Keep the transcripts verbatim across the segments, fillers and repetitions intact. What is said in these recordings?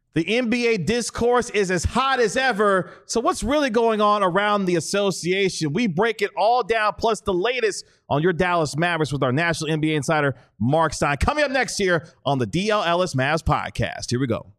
The N B A discourse is as hot as ever. So what's really going on around the association? We break it all down, plus the latest on your Dallas Mavericks with our national N B A insider, Mark Stein. Coming up next year on the D L Ellis Mavs podcast. Here we go.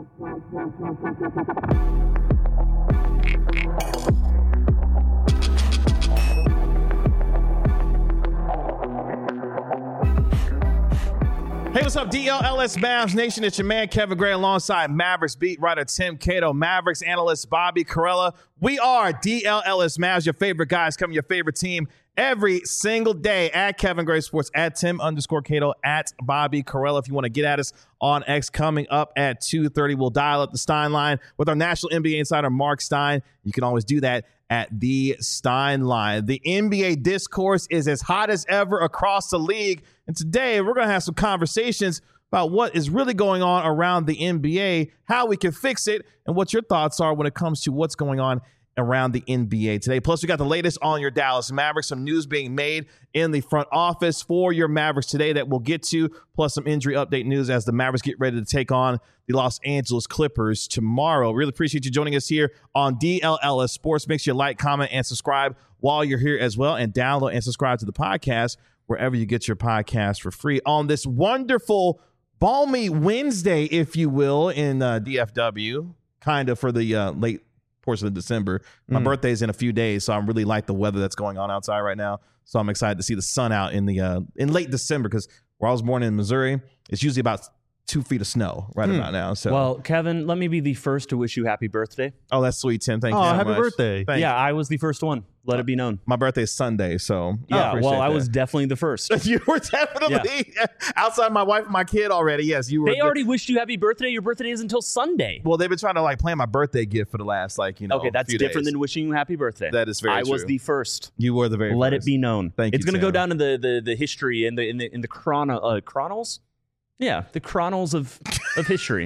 Hey, what's up, D L L S Mavs Nation? It's your man, Kevin Gray, alongside Mavericks beat writer Tim Cato, Mavericks analyst Bobby Karalla. We are D L L S Mavs, your favorite guys, coming your favorite team every single day at Kevin Gray Sports, at Tim underscore Cato, at Bobby Karalla. If you want to get at us on X, coming up at two thirty, we'll dial up the Stein line with our national N B A insider, Mark Stein. You can always do that at the Stein line. The N B A discourse is as hot as ever across the league. And today we're going to have some conversations about what is really going on around the N B A, how we can fix it, and what your thoughts are when it comes to what's going on around the N B A today. Plus, we got the latest on your Dallas Mavericks, some news being made in the front office for your Mavericks today that we'll get to, plus some injury update news as the Mavericks get ready to take on the Los Angeles Clippers tomorrow. Really appreciate you joining us here on D L L S Sports. Make sure you like, comment, and subscribe while you're here as well, and download and subscribe to the podcast wherever you get your podcast for free on this wonderful, balmy Wednesday, if you will, in uh, D F W, kind of for the uh, late portion of December. My mm. birthday's in a few days, so I really like the weather that's going on outside right now. So I'm excited to see the sun out in the uh, in late December, because where I was born in Missouri, it's usually about two feet of snow right mm. about now. So, well, Kevin, let me be the first to wish you happy birthday. Oh, that's sweet, Tim. Thank oh, you so happy much. birthday. Thank yeah, you. I was the first one. Let it be known. My birthday is Sunday, so yeah. Well, I that. was definitely the first. You were definitely yeah. outside my wife and my kid already. Yes, you were. They already wished you happy birthday. Your birthday is until Sunday. Well, they've been trying to like plan my birthday gift for the last like you know. Okay, that's different days. than wishing you happy birthday. That is very I true. was the first. You were the very. Let first. it be known. Thank it's you. It's going to go down in the the the history in the in the in the chrono uh, chronos. Yeah, the chronos of of history.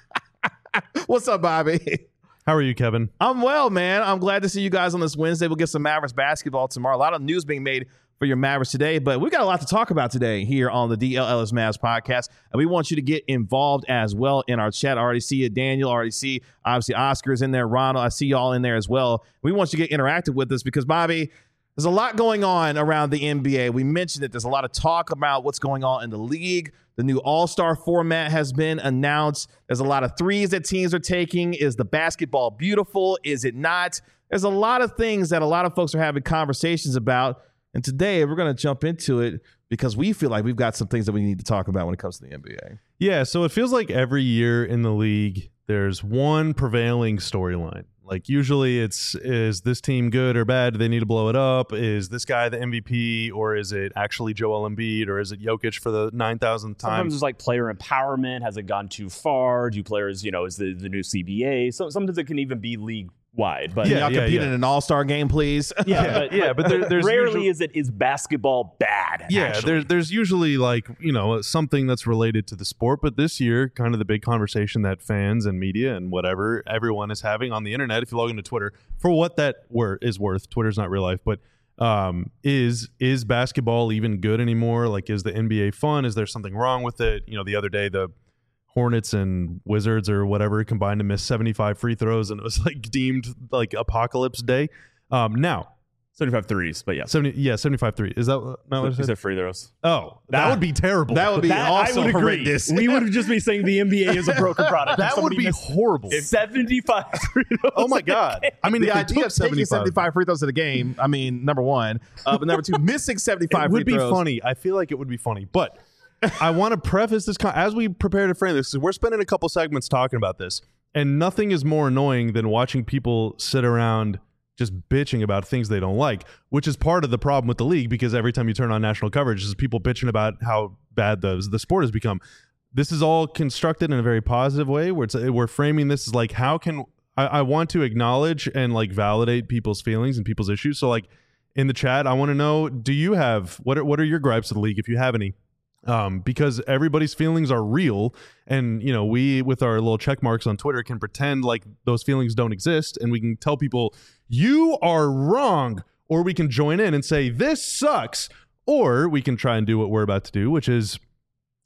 What's up, Bobby? How are you, Kevin? I'm well, man. I'm glad to see you guys on this Wednesday. We'll get some Mavericks basketball tomorrow. A lot of news being made for your Mavericks today, but we've got a lot to talk about today here on the D L L S Mavs podcast, and we want you to get involved as well in our chat. I already see you, Daniel. I already see, obviously, Oscar's in there. Ronald, I see y'all in there as well. We want you to get interactive with us because, Bobby, there's a lot going on around the N B A. We mentioned that there's a lot of talk about what's going on in the league. The new All-Star format has been announced. There's a lot of threes that teams are taking. Is the basketball beautiful? Is it not? There's a lot of things that a lot of folks are having conversations about. And today we're going to jump into it because we feel like we've got some things that we need to talk about when it comes to the N B A. Yeah, so it feels like every year in the league, there's one prevailing storyline. Like usually it's, is this team good or bad? Do they need to blow it up? Is this guy the M V P, or is it actually Joel Embiid, or is it Jokic for the nine thousandth time? Sometimes it's like player empowerment. Has it gone too far? Do players, you know, is the, the new C B A? So sometimes it can even be league wide. But yeah, y'all yeah, compete yeah. in an all-star game, please. Yeah, yeah, but, yeah, but there, there's rarely usually, is it is basketball bad. Yeah, actually. there's there's usually like, you know, something that's related to the sport. But this year, kind of the big conversation that fans and media and whatever everyone is having on the internet, if you log into Twitter, for what that wor- is worth, Twitter's not real life, but um, is is basketball even good anymore? Like, is the N B A fun? Is there something wrong with it? You know, the other day the Hornets and Wizards or whatever combined to miss seventy-five free throws, and it was like deemed like apocalypse day. Um, now, seventy-five threes, but yeah, seventy, yeah, seventy-five three. Is that not what I said? Is free throws? Oh, that, that would be terrible. That would be that, also I would horrendous. Agree. We would just be saying the N B A is a broken product. That would be horrible. seventy-five free throws. Oh my god! I mean, the if idea of taking seventy-five free throws in a game, I mean, number one, uh, but number two, missing seventy-five it would free be throws. funny. I feel like it would be funny, but I want to preface this con- as we prepare to frame this. We're spending a couple segments talking about this, and nothing is more annoying than watching people sit around just bitching about things they don't like, which is part of the problem with the league, because every time you turn on national coverage, is people bitching about how bad the the sport has become. This is all constructed in a very positive way, where it's, we're framing this as like, how can I, I want to acknowledge and like validate people's feelings and people's issues. So like in the chat, I want to know, do you have what are, what are your gripes of the league, if you have any? Um, because everybody's feelings are real, and you know, we with our little check marks on Twitter can pretend like those feelings don't exist, and we can tell people you are wrong, or we can join in and say this sucks, or we can try and do what we're about to do, which is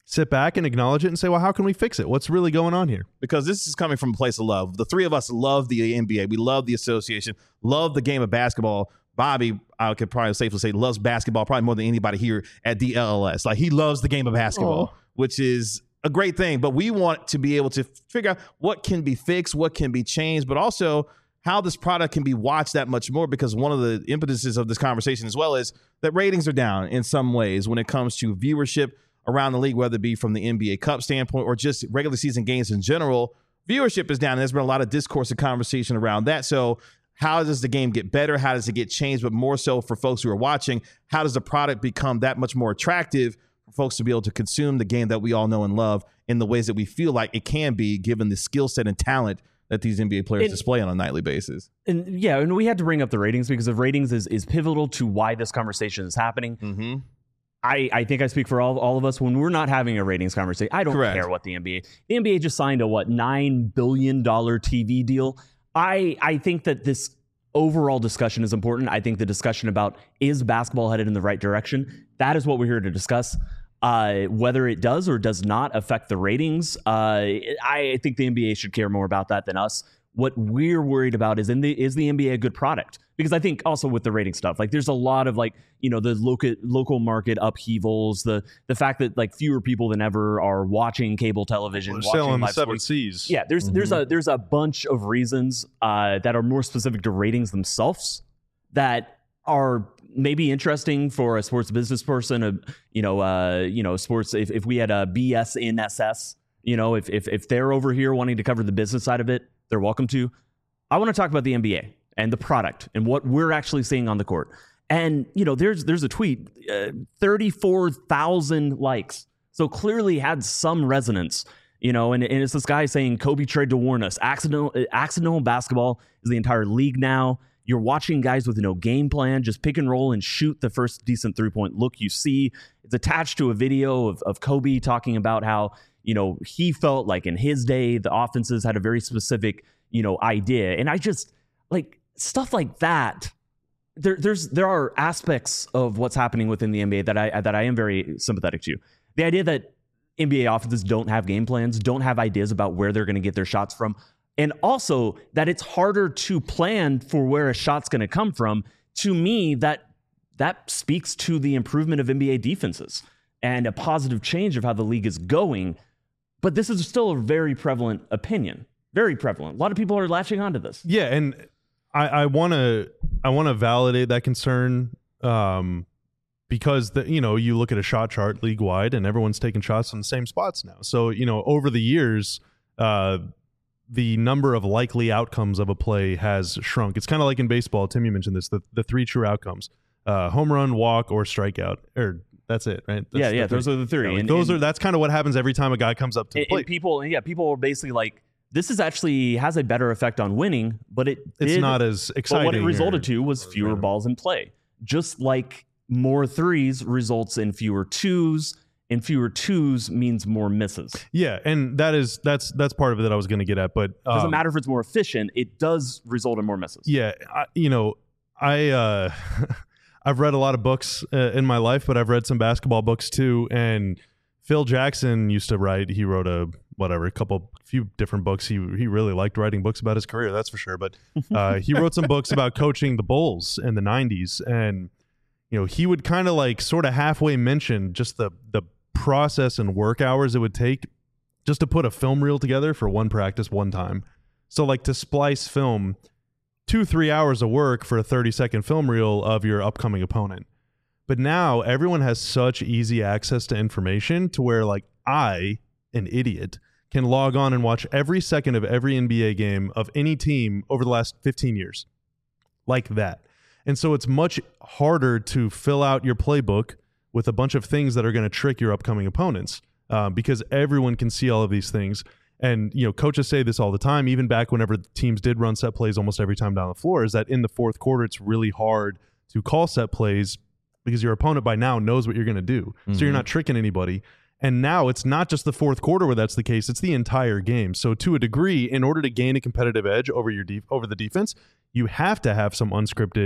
sit back and acknowledge it and say, well, how can we fix it? What's really going on here? Because this is coming from a place of love. The three of us love the N B A. We love the association, love the game of basketball. Bobby, I could probably safely say, loves basketball probably more than anybody here at D L L S. Like, he loves the game of basketball, oh. which is a great thing. But we want to be able to figure out what can be fixed, what can be changed, but also how this product can be watched that much more, because one of the impetuses of this conversation as well is that ratings are down in some ways when it comes to viewership around the league, whether it be from the N B A Cup standpoint or just regular season games in general. Viewership is down. And there's been a lot of discourse and conversation around that. So how does the game get better? How does it get changed? But more so for folks who are watching, how does the product become that much more attractive for folks to be able to consume the game that we all know and love in the ways that we feel like it can be, given the skill set and talent that these N B A players and, display on a nightly basis? And yeah, and we had to bring up the ratings because the ratings is, is pivotal to why this conversation is happening. Mm-hmm. I, I think I speak for all, all of us when we're not having a ratings conversation. I don't Correct. care what the N B A. The N B A just signed a, what, nine billion dollars T V deal. I, I think that this overall discussion is important. I think the discussion about is basketball headed in the right direction, that is what we're here to discuss. Uh, whether it does or does not affect the ratings, uh, I think the N B A should care more about that than us. What we're worried about is in the is the N B A a good product? Because I think also with the rating stuff, like there's a lot of like, you know, the local local market upheavals, the the fact that like fewer people than ever are watching cable television, We're watching selling live the seven sports. C's. Yeah, there's mm-hmm. there's a there's a bunch of reasons uh, that are more specific to ratings themselves that are maybe interesting for a sports business person. A, you know, uh, you know, sports. If, if we had a B S in S S, you know, if if if they're over here wanting to cover the business side of it, they're welcome to. I want to talk about the N B A and the product and what we're actually seeing on the court. And, you know, there's there's a tweet, uh, thirty-four thousand likes. So clearly had some resonance, you know, and, and it's this guy saying Kobe tried to warn us. Accidental, accidental basketball is the entire league now. You're watching guys with no game plan, just pick and roll and shoot the first decent three-point look you see. It's attached to a video of, of Kobe talking about how, you know, he felt like in his day, the offenses had a very specific, you know, idea. And I just like stuff like that. There, there's there are aspects of what's happening within the N B A that I that I am very sympathetic to. The idea that N B A offenses don't have game plans, don't have ideas about where they're going to get their shots from, and also that it's harder to plan for where a shot's going to come from. To me, that that speaks to the improvement of N B A defenses and a positive change of how the league is going. But this is still a very prevalent opinion. Very prevalent. A lot of people are latching onto this. Yeah, and I want to I want to validate that concern um, because the, you know, you look at a shot chart league wide and everyone's taking shots from the same spots now. So, you know, over the years, uh, the number of likely outcomes of a play has shrunk. It's kind of like in baseball. Tim, you mentioned this, the, the three true outcomes: uh, home run, walk, or strikeout. Or that's it, right? That's yeah, yeah. Those are the three. Yeah, like and, those and, are that's kind of what happens every time a guy comes up to the plate. And people, yeah, people are basically like, this is actually has a better effect on winning, but it it's did, not as exciting. But what it resulted or, to was fewer balls in play. Just like more threes results in fewer twos, and fewer twos means more misses. Yeah, and that is that's that's part of it that I was going to get at. But um, it doesn't matter if it's more efficient; it does result in more misses. Yeah, I, you know, I uh, I've read a lot of books uh, in my life, but I've read some basketball books too. And Phil Jackson used to write. He wrote a whatever, a couple, few different books. He he really liked writing books about his career, that's for sure. But uh, he wrote some books about coaching the Bulls in the nineties, and you know, he would kind of like sort of halfway mention just the the process and work hours it would take just to put a film reel together for one practice one time. So like to splice film, two three hours of work for a thirty second film reel of your upcoming opponent. But now everyone has such easy access to information to where like I, an idiot, can log on and watch every second of every N B A game of any team over the last fifteen years. Like that. And so it's much harder to fill out your playbook with a bunch of things that are going to trick your upcoming opponents uh, because everyone can see all of these things. And, you know, coaches say this all the time, even back whenever teams did run set plays almost every time down the floor, is that in the fourth quarter, it's really hard to call set plays because your opponent by now knows what you're going to do. Mm-hmm. So you're not tricking anybody. And now it's not just the fourth quarter where that's the case, it's the entire game. So to a degree, in order to gain a competitive edge over your def- over the defense, you have to have some unscripted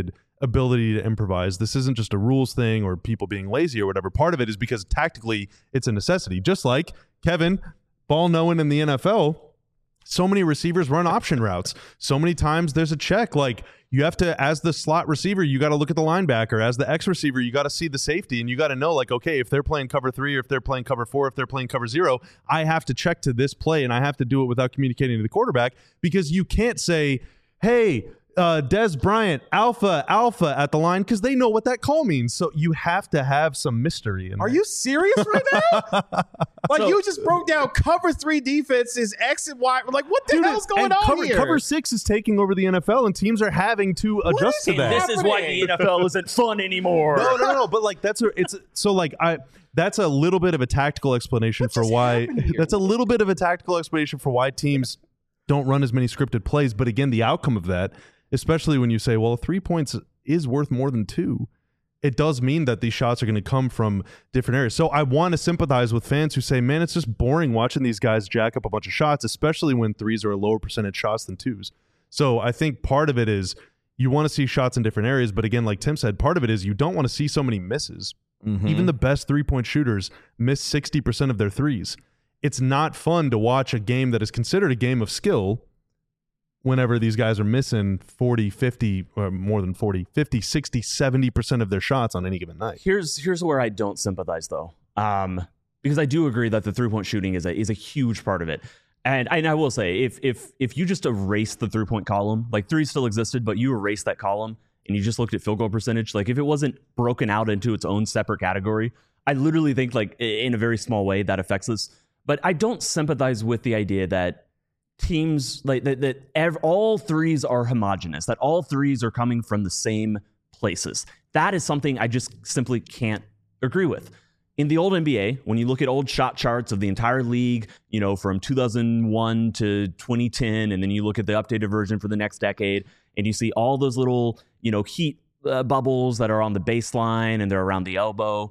ability to improvise. This isn't just a rules thing or people being lazy or whatever. Part of it is because tactically it's a necessity. Just like Kevin, ball knowing in the N F L, so many receivers run option routes. So many times there's a check. Like you have to, as the slot receiver, you got to look at the linebacker. As the X receiver, you got to see the safety, and you got to know, like, okay, if they're playing cover three, or if they're playing cover four, if they're playing cover zero, I have to check to this play, and I have to do it without communicating to the quarterback, because you can't say, hey, uh, Des Bryant, alpha, alpha at the line, because they know what that call means. So you have to have some mystery. In Are there. you serious right now? Like So- you just broke down cover three defense is X and Y. Like what the Dude, hell's going and on cover, here? Cover six is taking over the N F L, and teams are having to adjust is to it? that. This is why the N F L isn't fun anymore. No, no, no. But like that's a, it's so like I that's a little bit of a tactical explanation for just why happened here? that's a little bit of a tactical explanation for why teams don't run as many scripted plays. But again, the outcome of that, especially when you say, well, three points is worth more than two, it does mean that these shots are going to come from different areas. So I want to sympathize with fans who say, man, it's just boring watching these guys jack up a bunch of shots, especially when threes are a lower percentage shots than twos. So I think part of it is you want to see shots in different areas. But again, like Tim said, part of it is you don't want to see so many misses. Mm-hmm. Even the best three-point shooters miss sixty percent of their threes. It's not fun to watch a game that is considered a game of skill whenever these guys are missing forty, fifty, or more than forty, fifty, sixty, seventy percent of their shots on any given night. Here's here's where I don't sympathize though, um, because I do agree that the three point shooting is a is a huge part of it, and I, and I will say if if if you just erase the three point column, like three still existed, but you erase that column and you just looked at field goal percentage, like if it wasn't broken out into its own separate category, I literally think like in a very small way that affects this. But I don't sympathize with the idea that teams like that, that ev- all threes are homogenous, that all threes are coming from the same places. That is something I just simply can't agree with. In the old N B A, when you look at old shot charts of the entire league, you know, from two thousand one to twenty ten, and then you look at the updated version for the next decade, and you see all those little, you know, heat uh, bubbles that are on the baseline and they're around the elbow.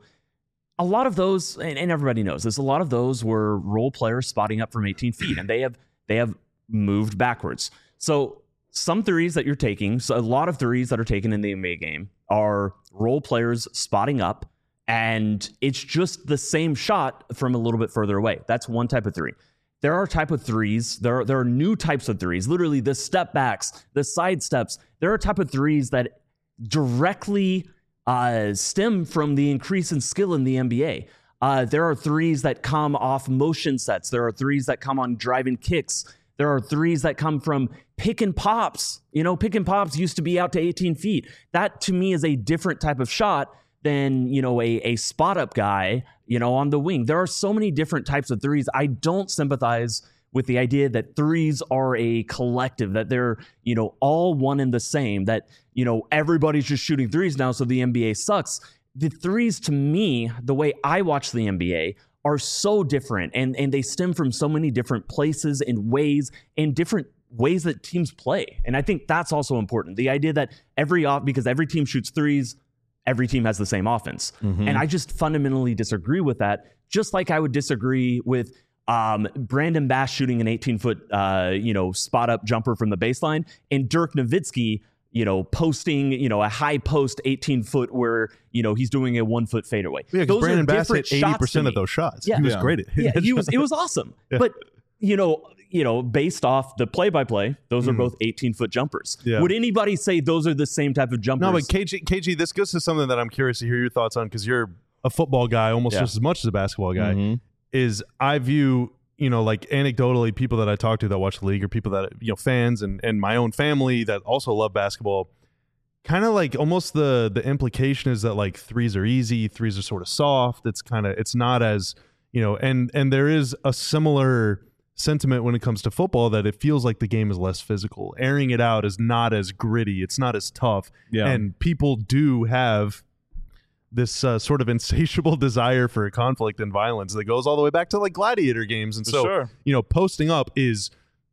A lot of those, and, and everybody knows this, a lot of those were role players spotting up from eighteen feet, and they have they have moved backwards. So some threes that you're taking, so a lot of threes that are taken in the N B A game are role players spotting up, and it's just the same shot from a little bit further away. That's one type of three. There are type of threes. There are, there are new types of threes, literally the step backs, the side steps. There are type of threes that directly uh, stem from the increase in skill in the N B A. Uh, there are threes that come off motion sets. There are threes that come on driving kicks. There are threes that come from pick and pops. You know, pick and pops used to be out to eighteen feet. That to me is a different type of shot than, you know, a, a spot up guy, you know, on the wing. There are so many different types of threes. I don't sympathize with the idea that threes are a collective, that they're, you know, all one and the same, that, you know, everybody's just shooting threes now, so the N B A sucks. The threes, to me, the way I watch the N B A, are so different, and, and they stem from so many different places and ways and different ways that teams play. And I think that's also important. The idea that every off, because every team shoots threes, every team has the same offense. Mm-hmm. And I just fundamentally disagree with that, just like I would disagree with um, Brandon Bass shooting an eighteen-foot, uh, you know, spot-up jumper from the baseline, and Dirk Nowitzki, you know, posting, you know, a high post eighteen-foot where, you know, he's doing a one-foot fadeaway. Yeah, because Those Brandon are Bass different hit eighty shots to percent me. of those shots. Yeah. He was Yeah. great at Yeah, hitting he was. shots. It was awesome. Yeah. But you know, you know, based off the play-by-play, those are Mhm. both eighteen-foot jumpers. Yeah. Would anybody say those are the same type of jumpers? No, but K G, K G, this goes to something that I'm curious to hear your thoughts on, because you're a football guy almost Yeah. just as much as a basketball guy. Mhm. Is I view, you know, like anecdotally, people that I talk to that watch the league, or people that, you know, fans and, and my own family that also love basketball, kind of like almost the the implication is that like threes are easy, threes are sort of soft. It's kind of, it's not as, you know, and and there is a similar sentiment when it comes to football, that it feels like the game is less physical. Airing it out is not as gritty. It's not as tough. Yeah. And people do have this uh, sort of insatiable desire for conflict and violence that goes all the way back to like gladiator games. And For so, sure. you know, posting up is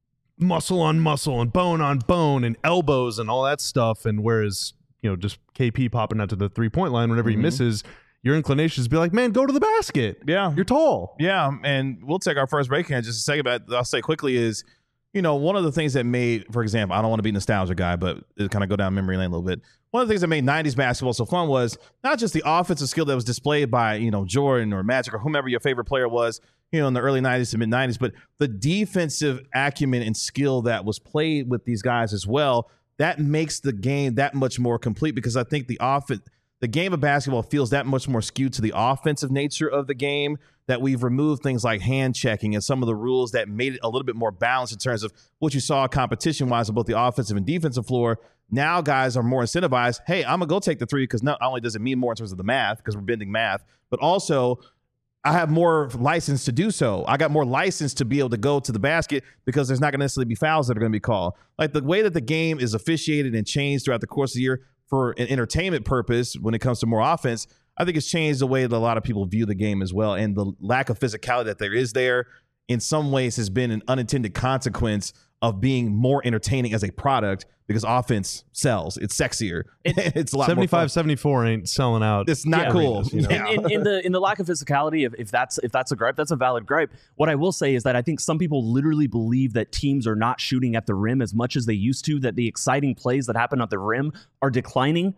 muscle on muscle and bone on bone and elbows and all that stuff. And whereas, you know, just K P popping out to the three point line whenever Mhm. he misses, your inclination is to be like, man, go to the basket. Yeah. You're tall. Yeah, and we'll take our first break here in just a second, but I'll say quickly is you know, one of the things that made, for example, I don't want to be a nostalgia guy, but it kind of go down memory lane a little bit. One of the things that made nineties basketball so fun was not just the offensive skill that was displayed by, you know, Jordan or Magic or whomever your favorite player was, you know, in the early nineties to mid nineties, but the defensive acumen and skill that was played with these guys as well. That makes the game that much more complete, because I think the offense, the game of basketball feels that much more skewed to the offensive nature of the game, that we've removed things like hand checking and some of the rules that made it a little bit more balanced in terms of what you saw competition-wise on both the offensive and defensive floor. Now guys are more incentivized. Hey, I'm going to go take the three, because not only does it mean more in terms of the math, because we're bending math, but also I have more license to do so. I got more license to be able to go to the basket, because there's not going to necessarily be fouls that are going to be called. Like the way that the game is officiated and changed throughout the course of the year for an entertainment purpose when it comes to more offense, I think it's changed the way that a lot of people view the game as well. And the lack of physicality that there is there in some ways has been an unintended consequence of being more entertaining as a product, because offense sells. It's sexier. It, it's a lot seventy-five more fun. seventy-four ain't selling out. It's not Yeah, cool. arenas, you know? Yeah. in, in, in the in the lack of physicality, if, if that's if that's a gripe, that's a valid gripe. What I will say is that I think some people literally believe that teams are not shooting at the rim as much as they used to, that the exciting plays that happen at the rim are declining.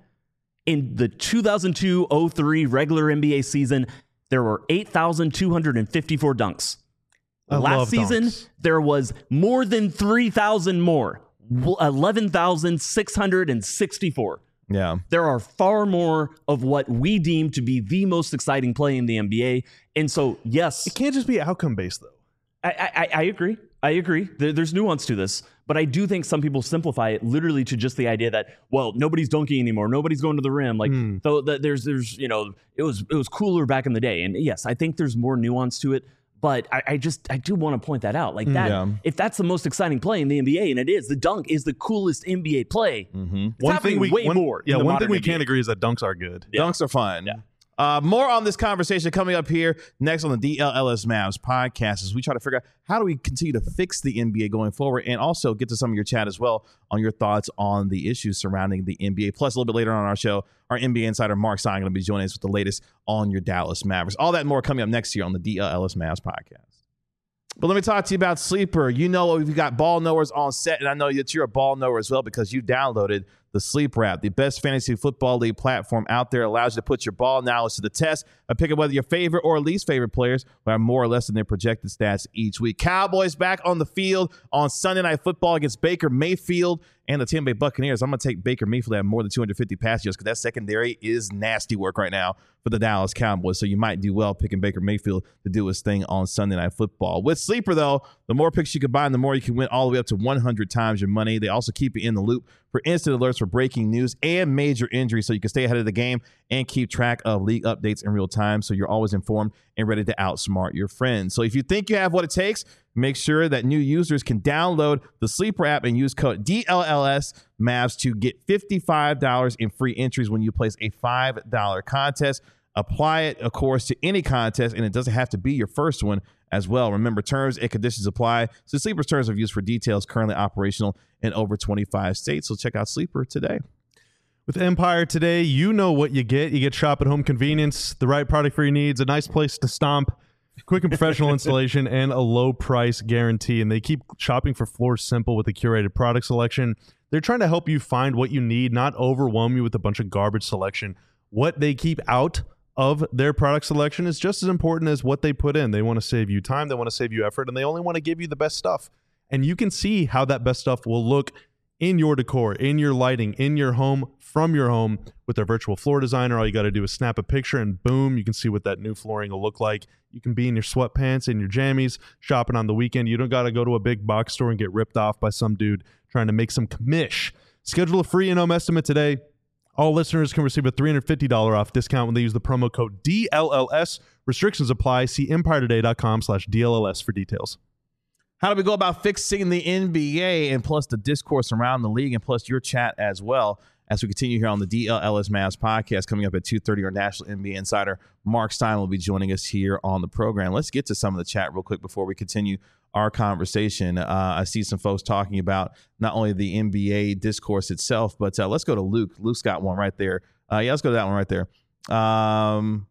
In the two thousand two oh three regular N B A season, there were eight thousand two hundred fifty-four dunks. I Last love season, dunks. there was more than three thousand more, eleven thousand six hundred sixty-four. Yeah. There are far more of what we deem to be the most exciting play in the N B A. And so, yes, It can't just be outcome based, though. I, I, I agree. I agree. There, there's nuance to this. But I do think some people simplify it literally to just the idea that, well, nobody's dunking anymore. Nobody's going to the rim. Like, Mm. so that there's, there's, you know, it was, it was cooler back in the day. And yes, I think there's more nuance to it. But I, I just, I do want to point that out. Like that, Yeah. if that's the most exciting play in the N B A, and it is, the dunk is the coolest N B A play. Mm-hmm. It's happening way one, more. in Yeah, the one modern thing we N B A. can't agree is that dunks are good. Yeah. Dunks are fun. Yeah. Uh, more on this conversation coming up here next on the D L L S Mavs podcast, as we try to figure out how do we continue to fix the N B A going forward, and also get to some of your chat as well on your thoughts on the issues surrounding the N B A. Plus, a little bit later on our show, our N B A insider Mark Stein going to be joining us with the latest on your Dallas Mavericks. All that and more coming up next year on the D L L S Mavs podcast. But let me talk to you about Sleeper. You know, we've got ball knowers on set, and I know that you're a ball knower as well, because you downloaded the Sleeper app, the best fantasy football league platform out there. Allows you to put your ball knowledge to the test by picking whether your favorite or least favorite players will have more or less than their projected stats each week. Cowboys back on the field on Sunday Night Football against Baker Mayfield and the Tampa Bay Buccaneers. I'm going to take Baker Mayfield to have more than two hundred fifty pass yards, because that secondary is nasty work right now for the Dallas Cowboys. So you might do well picking Baker Mayfield to do his thing on Sunday Night Football. With Sleeper, though, the more picks you combine, the more you can win, all the way up to one hundred times your money. They also keep you in the loop for instant alerts for breaking news and major injuries, so you can stay ahead of the game and keep track of league updates in real time, so you're always informed and ready to outsmart your friends. So if you think you have what it takes, make sure that new users can download the Sleeper app and use code D L L S Mavs to get fifty-five dollars in free entries when you place a five dollar contest. Apply it, of course, to any contest, and it doesn't have to be your first one as well. Remember, terms and conditions apply. So Sleeper's terms of use for details currently operational in over twenty-five states. So check out Sleeper today. With Empire today, you know what you get. You get shop at home convenience, the right product for your needs, a nice place to stomp, quick and professional installation, and a low price guarantee. And they keep shopping for floors simple with a curated product selection. They're trying to help you find what you need, not overwhelm you with a bunch of garbage selection. What they keep out of their product selection is just as important as what they put in. They want to save you time, they want to save you effort, and they only want to give you the best stuff. And you can see how that best stuff will look in your decor, in your lighting, in your home, from your home with their virtual floor designer. All you got to do is snap a picture and boom, you can see what that new flooring will look like. You can be in your sweatpants and your jammies shopping on the weekend. You don't got to go to a big box store and get ripped off by some dude trying to make some commish. Schedule a free in-home estimate today. All listeners can receive a three hundred fifty dollars off discount when they use the promo code D L L S. Restrictions apply. See empire today dot com slash D L L S for details. How do we go about fixing the N B A, and plus the discourse around the league, and plus your chat as well, as we continue here on the D L L S Mavs podcast coming up at two thirty. Our national N B A insider Mark Stein will be joining us here on the program. Let's get to some of the chat real quick before we continue our conversation. Uh, I see some folks talking about not only the N B A discourse itself, but uh, let's go to Luke. Luke's got one right there. Uh, yeah, let's go to that one right there. Um,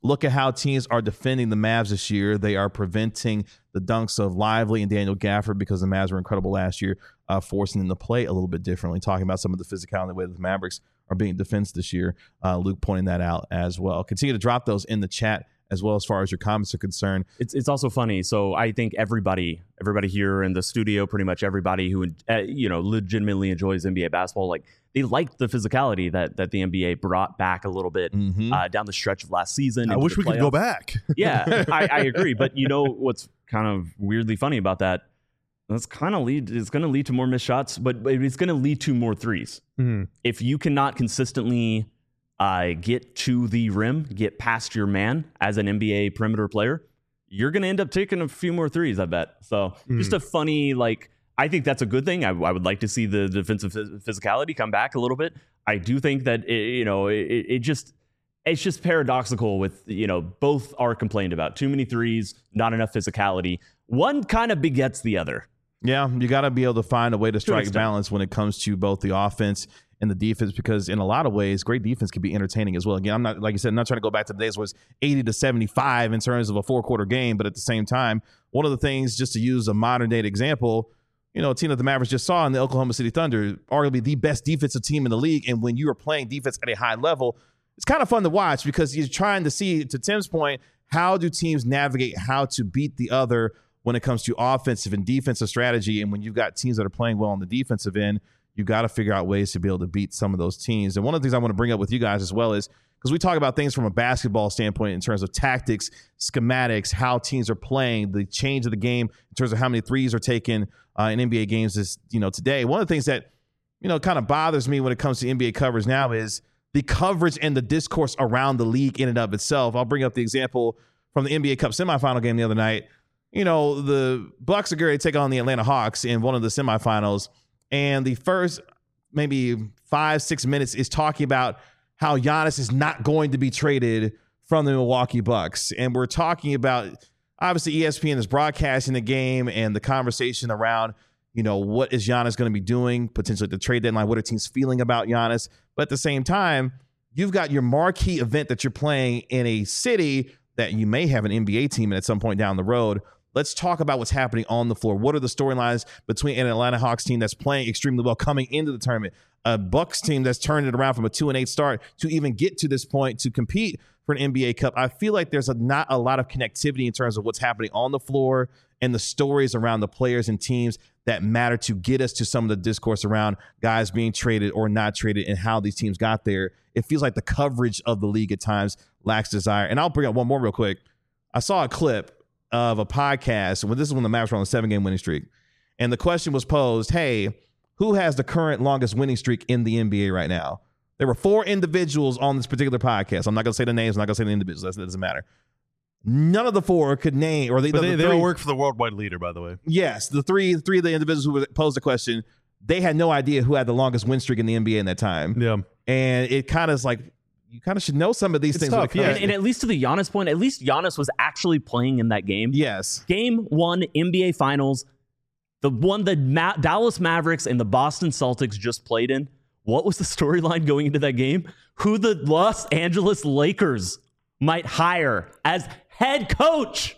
look at how teams are defending the Mavs this year. They are preventing the dunks of Lively and Daniel Gafford because the Mavs were incredible last year, uh, forcing them to play a little bit differently, talking about some of the physicality and the way that the Mavericks are being defensed this year. Uh, Luke pointing that out as well. Continue to drop those in the chat as well as far as your comments are concerned. It's it's also funny. So I think everybody, everybody here in the studio, pretty much everybody who uh, you know legitimately enjoys N B A basketball, like they liked the physicality that that the N B A brought back a little bit Mm-hmm. uh, down the stretch of last season. I into wish the we could go playoffs. back. Yeah, I, I agree. But you know what's kind of weirdly funny about that? That's kind of lead. It's going to lead to more missed shots, but, but it's going to lead to more threes. Mm-hmm. If you cannot consistently uh, get to the rim, get past your man as an N B A perimeter player, you're going to end up taking a few more threes, I bet. So Mm. just a funny, like, I think that's a good thing. I, I would like to see the defensive phys- physicality come back a little bit. I do think that, it, you know, it, it just, it's just paradoxical with, you know, both are complained about. Too many threes, not enough physicality. One kind of begets the other. Yeah, you got to be able to find a way to strike extent. balance when it comes to both the offense and the defense, because in a lot of ways, great defense can be entertaining as well. Again, I'm not, like you said, I'm not trying to go back to the days where it's eighty to seventy-five in terms of a four quarter game, but at the same time, one of the things, just to use a modern day example, you know, a team that the Mavericks just saw in the Oklahoma City Thunder, arguably the best defensive team in the league, and when you are playing defense at a high level, it's kind of fun to watch because you're trying to see, to Tim's point, how do teams navigate how to beat the other when it comes to offensive and defensive strategy. And when you've got teams that are playing well on the defensive end, you got to figure out ways to be able to beat some of those teams. And one of the things I want to bring up with you guys as well is, because we talk about things from a basketball standpoint in terms of tactics, schematics, how teams are playing, the change of the game in terms of how many threes are taken uh, in N B A games this, you know, today. One of the things that, you know, kind of bothers me when it comes to N B A coverage now is the coverage and the discourse around the league in and of itself. I'll bring up the example from the N B A Cup semifinal game the other night. You know, the Bucks are going to take on the Atlanta Hawks in one of the semifinals. And the first maybe five, six minutes is talking about how Giannis is not going to be traded from the Milwaukee Bucks. And we're talking about, obviously, E S P N is broadcasting the game and the conversation around, you know, what is Giannis going to be doing potentially at the trade deadline? What are teams feeling about Giannis? But at the same time, you've got your marquee event that you're playing in a city that you may have an N B A team in at some point down the road. Let's talk about what's happening on the floor. What are the storylines between an Atlanta Hawks team that's playing extremely well coming into the tournament, a Bucks team that's turned it around from a two and eight start to even get to this point to compete for an N B A Cup? I feel like there's a, not a lot of connectivity in terms of what's happening on the floor and the stories around the players and teams that matter to get us to some of the discourse around guys being traded or not traded and how these teams got there. It feels like the coverage of the league at times lacks desire. And I'll bring up one more real quick. I saw a clip of a podcast when this is when the Mavs were on a seven game winning streak. And the question was posed, hey, who has the current longest winning streak in the N B A right now? There were four individuals on this particular podcast. I'm not going to say the names. I'm not going to say the individuals. That doesn't matter. None of the four could name, or they, But the, they, the they three, all work for the worldwide leader, by the way. Yes, the three, three of the individuals who posed the question, they had no idea who had the longest win streak in the N B A in that time. Yeah. And it kind of is like, you kind of should know some of these It's things. tough, when it yeah. comes And, and at least to the Giannis point, at least Giannis was actually playing in that game. Yes. Game one, N B A Finals, the one the Ma- Dallas Mavericks and the Boston Celtics just played in. What was the storyline going into that game? Who the Los Angeles Lakers might hire as head coach.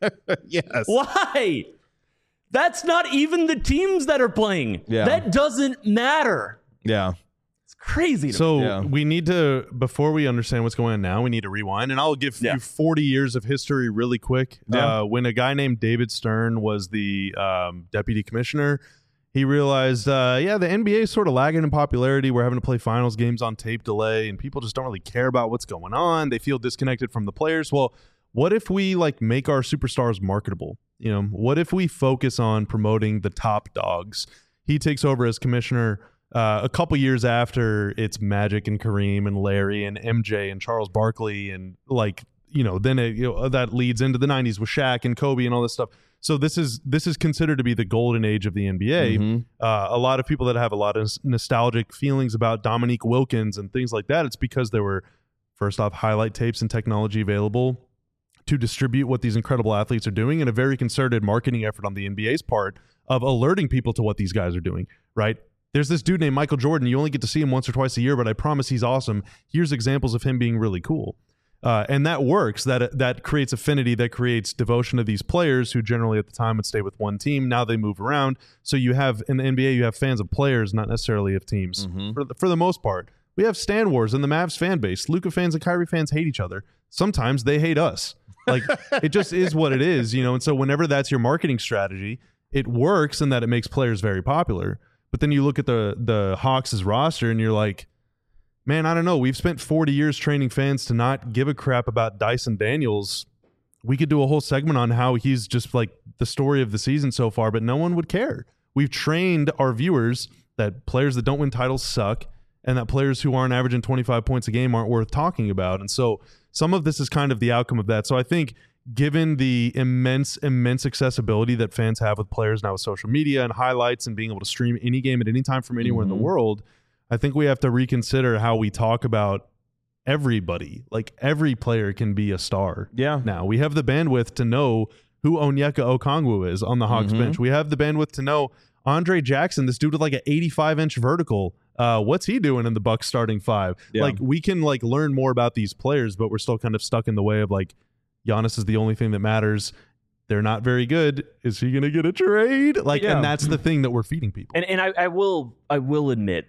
Yes. Why? That's not even the teams that are playing. Yeah. That doesn't matter. Yeah. It's crazy. To So Yeah. we need to, before we understand what's going on now, we need to rewind. And I'll give Yeah. you forty years of history really quick. Yeah. Uh, when a guy named David Stern was the um, deputy commissioner, he realized, uh, yeah, the N B A is sort of lagging in popularity. We're having to play finals games on tape delay, and people just don't really care about what's going on. They feel disconnected from the players. Well, what if we like make our superstars marketable? You know, what if we focus on promoting the top dogs? He takes over as commissioner uh, a couple years after it's Magic and Kareem and Larry and M J and Charles Barkley, and like, you know, then it, you know, that leads into the nineties with Shaq and Kobe and all this stuff. So this is this is considered to be the golden age of the N B A. Mhm. Uh, a lot of people that have a lot of s- nostalgic feelings about Dominique Wilkins and things like that, it's because there were, first off, highlight tapes and technology available to distribute what these incredible athletes are doing, and a very concerted marketing effort on the N B A's part of alerting people to what these guys are doing, right? There's this dude named Michael Jordan. You only get to see him once or twice a year, but I promise he's awesome. Here's examples of him being really cool. Uh, and that works. That that creates affinity. That creates devotion to these players who generally at the time would stay with one team. Now they move around. So you have in the N B A, you have fans of players, not necessarily of teams. Mm-hmm. For the, for the most part, we have Stan Wars in the Mavs fan base. Luka fans and Kyrie fans hate each other. Sometimes they hate us. Like it just is what it is, you know. And so whenever that's your marketing strategy, it works in that it makes players very popular. But then you look at the the Hawks' roster and you're like, man, I don't know. We've spent forty years training fans to not give a crap about Dyson Daniels. We could do a whole segment on how he's just like the story of the season so far, but no one would care. We've trained our viewers that players that don't win titles suck and that players who aren't averaging twenty-five points a game aren't worth talking about. And so some of this is kind of the outcome of that. So I think given the immense, immense accessibility that fans have with players now with social media and highlights and being able to stream any game at any time from anywhere mm-hmm. in the world, I think we have to reconsider how we talk about everybody. Like every player can be a star. Yeah. Now we have the bandwidth to know who Onyeka Okongwu is on the Hawks mm-hmm. bench. We have the bandwidth to know Andre Jackson, this dude with like an eighty-five inch vertical. Uh, what's he doing in the Bucks starting five? Yeah. Like we can like learn more about these players, but we're still kind of stuck in the way of like Giannis is the only thing that matters. They're not very good. Is he going to get a trade? Like, yeah. and that's the thing that we're feeding people. And and I, I will I will admit,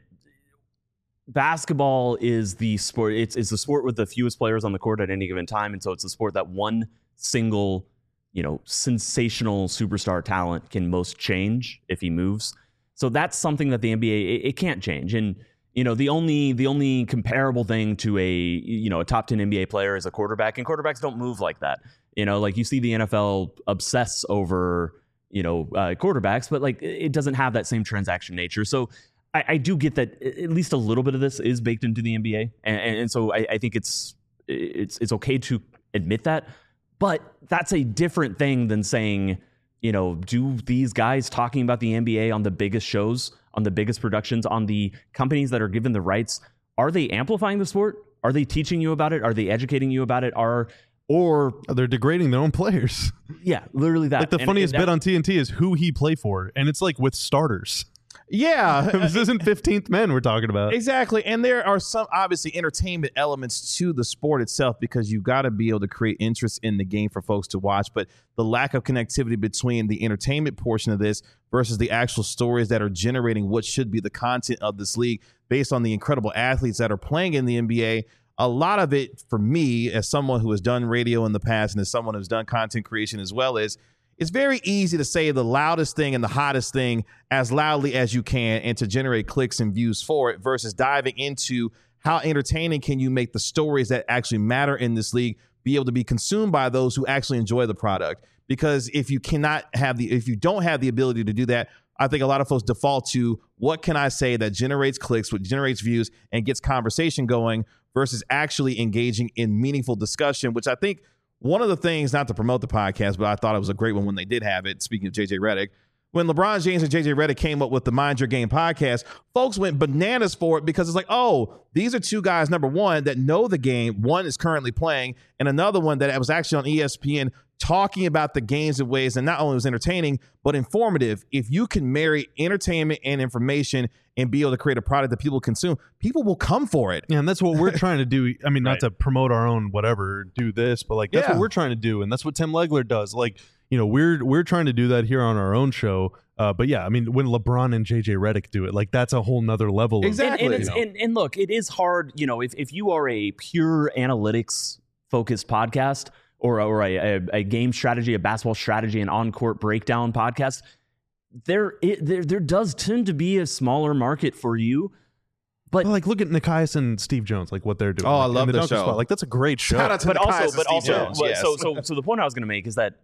basketball is the sport. It's it's the sport with the fewest players on the court at any given time, and so it's the sport that one single, you know, sensational superstar talent can most change if he moves. So that's something that the N B A it, it can't change. And you know, the only the only comparable thing to a you know a top ten N B A player is a quarterback, and quarterbacks don't move like that. You know, like you see the N F L obsess over you know uh, quarterbacks, but like it doesn't have that same transaction nature. So I, I do get that at least a little bit of this is baked into the N B A, and, and so I, I think it's it's it's okay to admit that. But that's a different thing than saying, you know, do these guys talking about the N B A on the biggest shows, on the biggest productions, on the companies that are given the rights, are they amplifying the sport? Are they teaching you about it? Are they educating you about it? Are or they're degrading their own players? Yeah, literally that. Like the and, funniest and that, bit on T N T is who he play for, and it's like with starters. Yeah. This isn't fifteenth men we're talking about. Exactly. And there are some obviously entertainment elements to the sport itself because you've got to be able to create interest in the game for folks to watch. But the lack of connectivity between the entertainment portion of this versus the actual stories that are generating what should be the content of this league based on the incredible athletes that are playing in the N B A. A lot of it for me, as someone who has done radio in the past and as someone who's done content creation as well, is it's very easy to say the loudest thing and the hottest thing as loudly as you can and to generate clicks and views for it versus diving into how entertaining can you make the stories that actually matter in this league be able to be consumed by those who actually enjoy the product. Because if you cannot have the, if you don't have the ability to do that, I think a lot of folks default to what can I say that generates clicks, what generates views and gets conversation going versus actually engaging in meaningful discussion, which I think one of the things, not to promote the podcast, but I thought it was a great one when they did have it, speaking of J J Redick, when LeBron James and J J Redick came up with the Mind Your Game podcast, folks went bananas for it because it's like, oh, these are two guys, number one, that know the game. One is currently playing, and another one that was actually on E S P N talking about the games in ways that not only was entertaining, but informative. If you can marry entertainment and information and be able to create a product that people consume, people will come for it. Yeah, and that's what we're trying to do. I mean, not Right. to promote our own whatever, do this, but like that's Yeah. what we're trying to do, and that's what Tim Legler does. Like, you know, we're we're trying to do that here on our own show. Uh, but yeah, I mean, when LeBron and J J Redick do it, like that's a whole nother level. Exactly. And, and, it's, you know? and, and look, it is hard, you know, if, if you are a pure analytics focused podcast or, or a, a, a game strategy, a basketball strategy, an on-court breakdown podcast, there, it, there there does tend to be a smaller market for you. But Well, like look at Nikias and Steve Jones, like what they're doing. Oh, I like, love in the dunker show. Spot. Like that's a great show. Shout out to but Nikias also, and but Steve also, Jones, well, yes. so so so the point I was going to make is that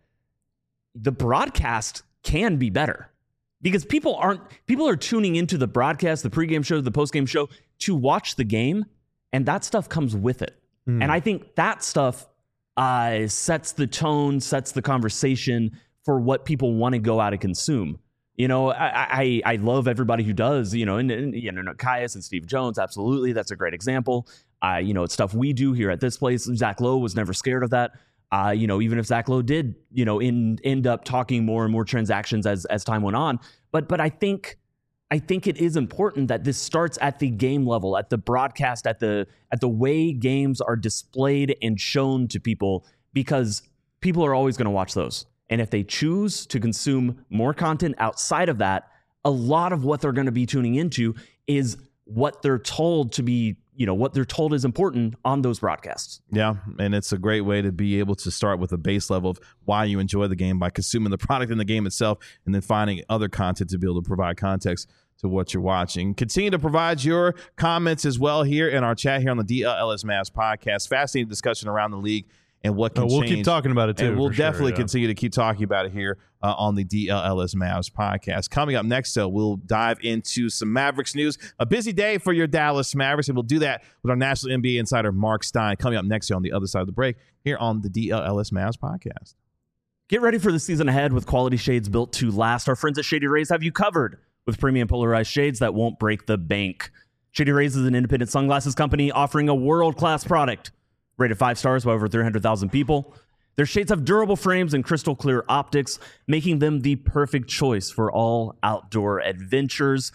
the broadcast can be better because people aren't people are tuning into the broadcast, the pregame show, the postgame show to watch the game, and that stuff comes with it. Mm. And I think that stuff uh, sets the tone, sets the conversation for what people want to go out and consume. You know, I, I I love everybody who does, you know, and, and you know, Nikias and Steve Jones, absolutely. That's a great example. Uh, you know, it's stuff we do here at this place. Zach Lowe was never scared of that. Uh, you know, even if Zach Lowe did, you know, in, end up talking more and more transactions as as time went on. But but I think I think it is important that this starts at the game level, at the broadcast, at the at the way games are displayed and shown to people, because people are always going to watch those. And if they choose to consume more content outside of that, a lot of what they're going to be tuning into is what they're told to be, you know, what they're told is important on those broadcasts. Yeah, and it's a great way to be able to start with a base level of why you enjoy the game by consuming the product in the game itself, and then finding other content to be able to provide context to what you're watching. Continue to provide your comments as well here in our chat here on the D L L S Mavs podcast. Fascinating discussion around the league and what can oh, we'll change. keep talking about it too. And we'll for definitely sure, yeah. continue to keep talking about it here uh, on the D L L S Mavs podcast. Coming up next, though, we'll dive into some Mavericks news. A busy day for your Dallas Mavericks, and we'll do that with our National N B A insider, Mark Stein, coming up next year on the other side of the break here on the D L L S Mavs podcast. Get ready for the season ahead with quality shades built to last. Our friends at Shady Rays have you covered with premium polarized shades that won't break the bank. Shady Rays is an independent sunglasses company offering a world-class product rated five stars by over three hundred thousand people. Their shades have durable frames and crystal clear optics, making them the perfect choice for all outdoor adventures.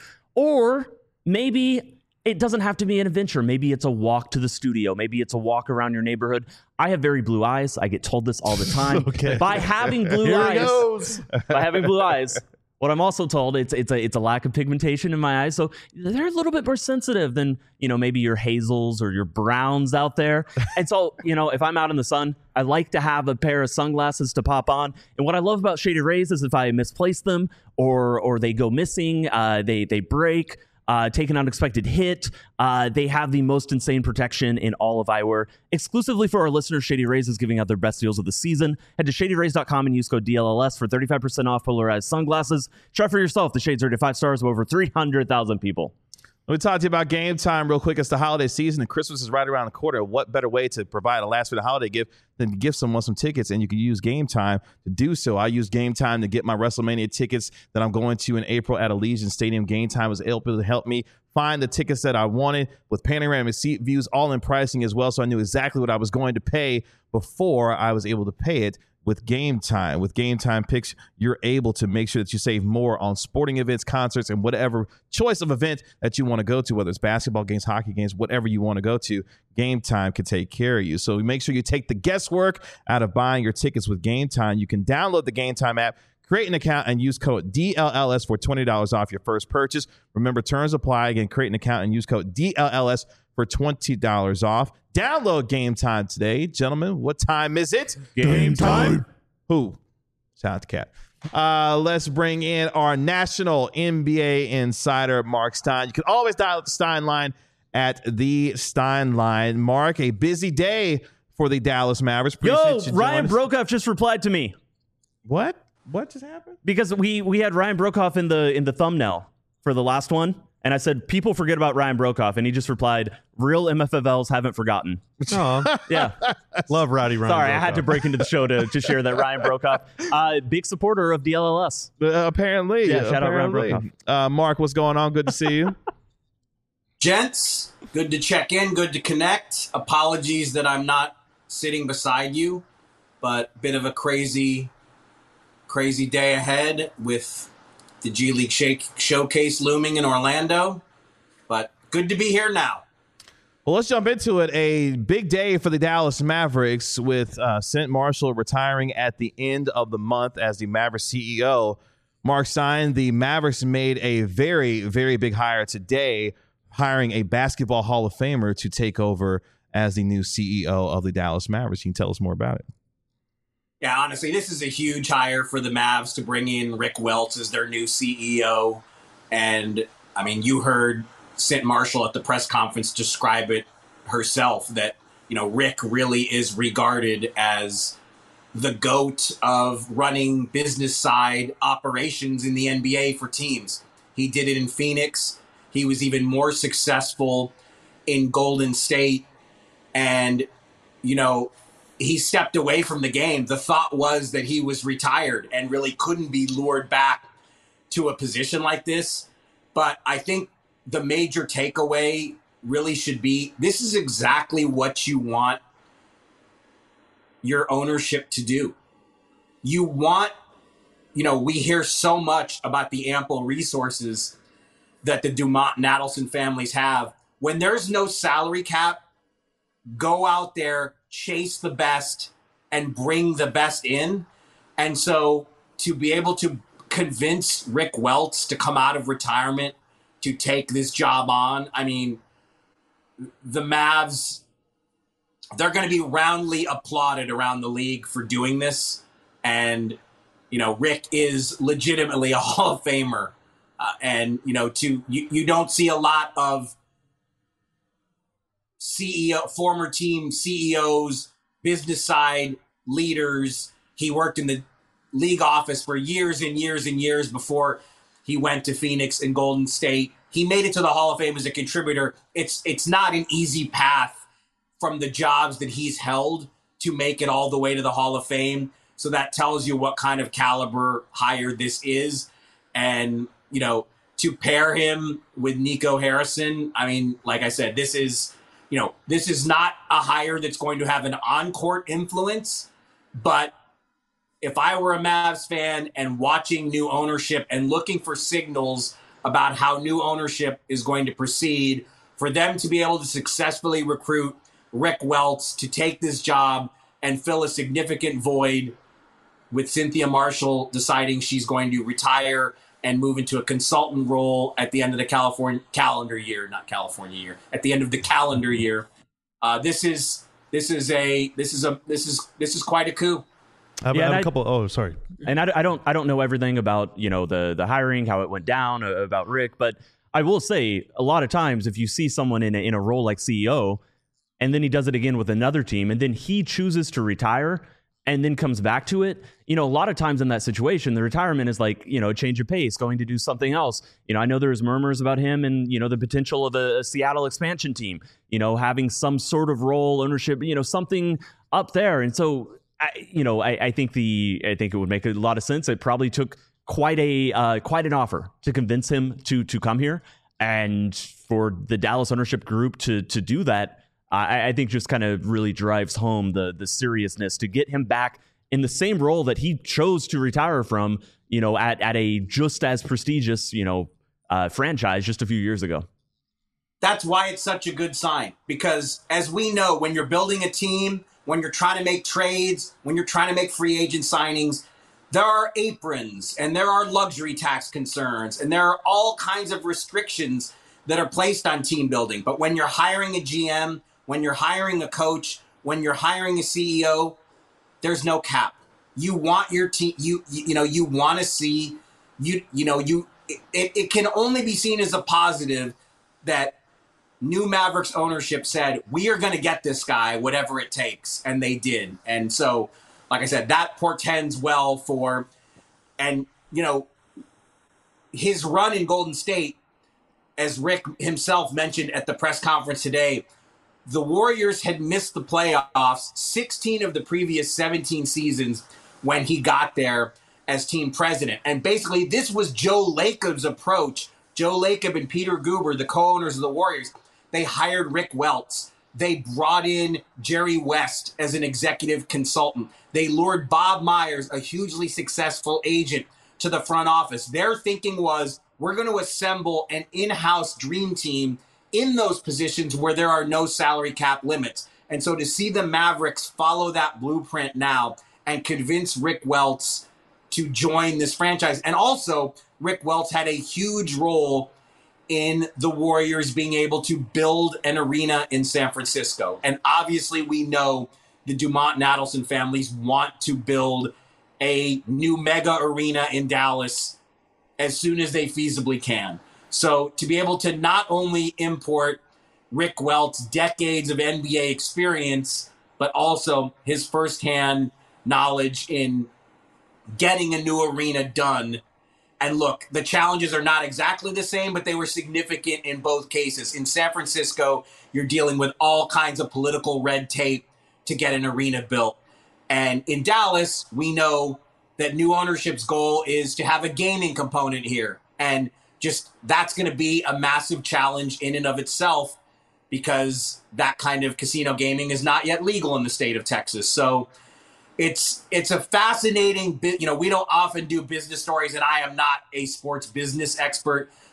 Or maybe it doesn't have to be an adventure. Maybe it's a walk to the studio. Maybe it's a walk around your neighborhood. I have very blue eyes. I get told this all the time. Okay. By having blue Here eyes, it goes. by having blue eyes, what I'm also told, it's it's a it's a lack of pigmentation in my eyes, so they're a little bit more sensitive than, you know, maybe your hazels or your browns out there. And so, you know, if I'm out in the sun, I like to have a pair of sunglasses to pop on. And what I love about Shady Rays is if I misplace them or or they go missing, uh, they they break. Uh, take an unexpected hit. Uh, they have the most insane protection in all of eyewear. Exclusively for our listeners, Shady Rays is giving out their best deals of the season. Head to shady rays dot com and use code D L L S for thirty-five percent off polarized sunglasses. Try for yourself. The shades are rated five stars with over three hundred thousand people. Let me talk to you about Game Time real quick. It's the holiday season and Christmas is right around the corner. What better way to provide a last-minute holiday gift than to give someone some tickets, and you can use Game Time to do so. I use Game Time to get my WrestleMania tickets that I'm going to in April at Allegiant Stadium. Game Time was able to help me find the tickets that I wanted with panoramic seat views, all in pricing as well, so I knew exactly what I was going to pay before I was able to pay it. With Game Time, with Game Time picks, you're able to make sure that you save more on sporting events, concerts, and whatever choice of event that you want to go to, whether it's basketball games, hockey games, whatever you want to go to. Game Time can take care of you. So make sure you take the guesswork out of buying your tickets with Game Time. You can download the Game Time app, create an account, and use code D L L S for twenty dollars off your first purchase. Remember, terms apply. Again, create an account and use code D L L S for twenty dollars off. Download Game Time today. Gentlemen, what time is it? Game time. Who? Shout out to Cat. Uh, let's bring in our national N B A insider, Mark Stein. You can always dial up the Stein line at the Stein line. Mark, a busy day for the Dallas Mavericks. Yo, you Ryan joining us. Brokoff just replied to me What? What just happened? because we we had Ryan Brokoff in the in the thumbnail for the last one. And I said, people forget about Ryan Brokoff. And he just replied, real M F F Ls haven't forgotten. Aw. Yeah. Love Rowdy Ryan. Sorry, Brokoff. I had to break into the show to, to share that Ryan Brokoff, uh, big supporter of D L L S. Uh, apparently. Yeah, shout out Ryan apparently. Uh, Mark, what's going on? Good to see you. Gents, good to check in, good to connect. Apologies that I'm not sitting beside you, but bit of a crazy, crazy day ahead with the G League shake showcase looming in Orlando. But good to be here now. Well, let's jump into it. A big day for the Dallas Mavericks with uh, Cent Marshall retiring at the end of the month as the Mavericks C E O. Mark Stein, the Mavericks made a very, very big hire today, hiring a basketball Hall of Famer to take over as the new C E O of the Dallas Mavericks. You can tell us more about it. Yeah, honestly, this is a huge hire for the Mavs to bring in Rick Welts as their new C E O. And, I mean, you heard Cent Marshall at the press conference describe it herself, that, you know, Rick really is regarded as the GOAT of running business side operations in the N B A for teams. He did it in Phoenix. He was even more successful in Golden State. And, you know, he stepped away from the game. The thought was that he was retired and really couldn't be lured back to a position like this. But I think the major takeaway really should be, this is exactly what you want your ownership to do. You want, you know, we hear so much about the ample resources that the Dumont and Adelson families have. When there's no salary cap, go out there, chase the best, and bring the best in. And so to be able to convince Rick Welts to come out of retirement to take this job on, I mean, the Mavs, they're going to be roundly applauded around the league for doing this. And, you know, Rick is legitimately a Hall of Famer. Uh, and, you know, to you, you don't see a lot of C E O, former team C E Os, business side leaders. He worked in the league office for years and years and years before he went to Phoenix and Golden State. He made it to the Hall of Fame as a contributor. It's it's not an easy path from the jobs that he's held to make it all the way to the Hall of Fame. So that tells you what kind of caliber hire this is. And, you know, to pair him with Nico Harrison, I mean, like I said, this is, you know, this is not a hire that's going to have an on-court influence. But if I were a Mavs fan and watching new ownership and looking for signals about how new ownership is going to proceed, for them to be able to successfully recruit Rick Welts to take this job and fill a significant void with Cynthia Marshall deciding she's going to retire and move into a consultant role at the end of the California calendar year, not California year, at the end of the calendar year. Uh, this is this is a this is a this is this is quite a coup. I have, Yeah, I have and a I- couple. Oh, sorry. And I, I don't I don't know everything about, you know, the the hiring, how it went down, uh, about Rick, but I will say a lot of times if you see someone in a, in a role like C E O and then he does it again with another team and then he chooses to retire and then comes back to it, you know, a lot of times in that situation, the retirement is like, you know, a change of pace, going to do something else. You know, I know there's murmurs about him and, you know, the potential of a, a Seattle expansion team, you know, having some sort of role, ownership, you know, something up there. And so, I, you know, I, I think the I think it would make a lot of sense. It probably took quite a uh, quite an offer to convince him to to come here, and for the Dallas ownership group to to do that, I, I think just kind of really drives home the the seriousness to get him back in the same role that he chose to retire from. You know, at at a just as prestigious, you know, uh, franchise just a few years ago. That's why it's such a good sign, because as we know, when you're building a team, when you're trying to make trades, when you're trying to make free agent signings, there are aprons and there are luxury tax concerns and there are all kinds of restrictions that are placed on team building. But when you're hiring a G M, when you're hiring a coach, when you're hiring a C E O, there's no cap. You want your team, you, you, you know, you want to see, you, you know, you, it, it can only be seen as a positive that new Mavericks ownership said, we are going to get this guy, whatever it takes. And they did. And so, like I said, that portends well for, and, you know, his run in Golden State, as Rick himself mentioned at the press conference today, the Warriors had missed the playoffs sixteen of the previous seventeen seasons when he got there as team president. And basically, this was Joe Lacob's approach. Joe Lacob and Peter Guber, the co-owners of the Warriors, they hired Rick Welts. They brought in Jerry West as an executive consultant. They lured Bob Myers, a hugely successful agent, to the front office. Their thinking was, we're going to assemble an in-house dream team in those positions where there are no salary cap limits. And so to see the Mavericks follow that blueprint now and convince Rick Welts to join this franchise. And also, Rick Welts had a huge role in the Warriors being able to build an arena in San Francisco. And obviously we know the Dumont and Adelson families want to build a new mega arena in Dallas as soon as they feasibly can. So to be able to not only import Rick Welts' decades of N B A experience, but also his firsthand knowledge in getting a new arena done. And look, the challenges are not exactly the same, but they were significant in both cases. In San Francisco, you're dealing with all kinds of political red tape to get an arena built. And in Dallas, we know that new ownership's goal is to have a gaming component here. And just that's going to be a massive challenge in and of itself, because that kind of casino gaming is not yet legal in the state of Texas. So It's it's a fascinating bit. You know, we don't often do business stories, and I am not a sports business expert,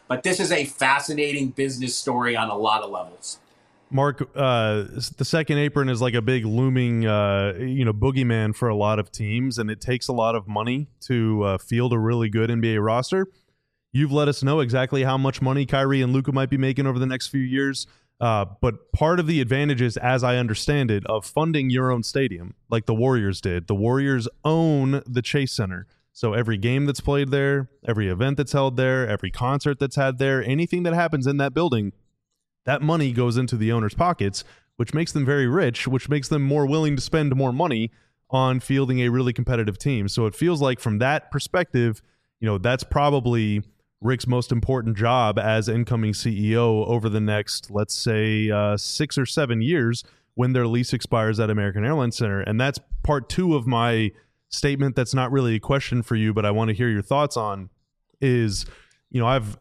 But this is a fascinating business story on a lot of levels. Mark, uh, the second apron is like a big looming, uh, you know, boogeyman for a lot of teams, and it takes a lot of money to uh, field a really good N B A roster. You've let us know exactly how much money Kyrie and Luka might be making over the next few years. Uh, but part of the advantages, as I understand it, of funding your own stadium, like the Warriors did, the Warriors own the Chase Center. So every game that's played there, every event that's held there, every concert that's had there, anything that happens in that building, that money goes into the owners' pockets, which makes them very rich, which makes them more willing to spend more money on fielding a really competitive team. So it feels like from that perspective, you know, that's probably Rick's most important job as incoming C E O over the next, let's say, uh, six or seven years when their lease expires at American Airlines Center. And that's part two of my statement that's not really a question for you, but I want to hear your thoughts on is, you know, I've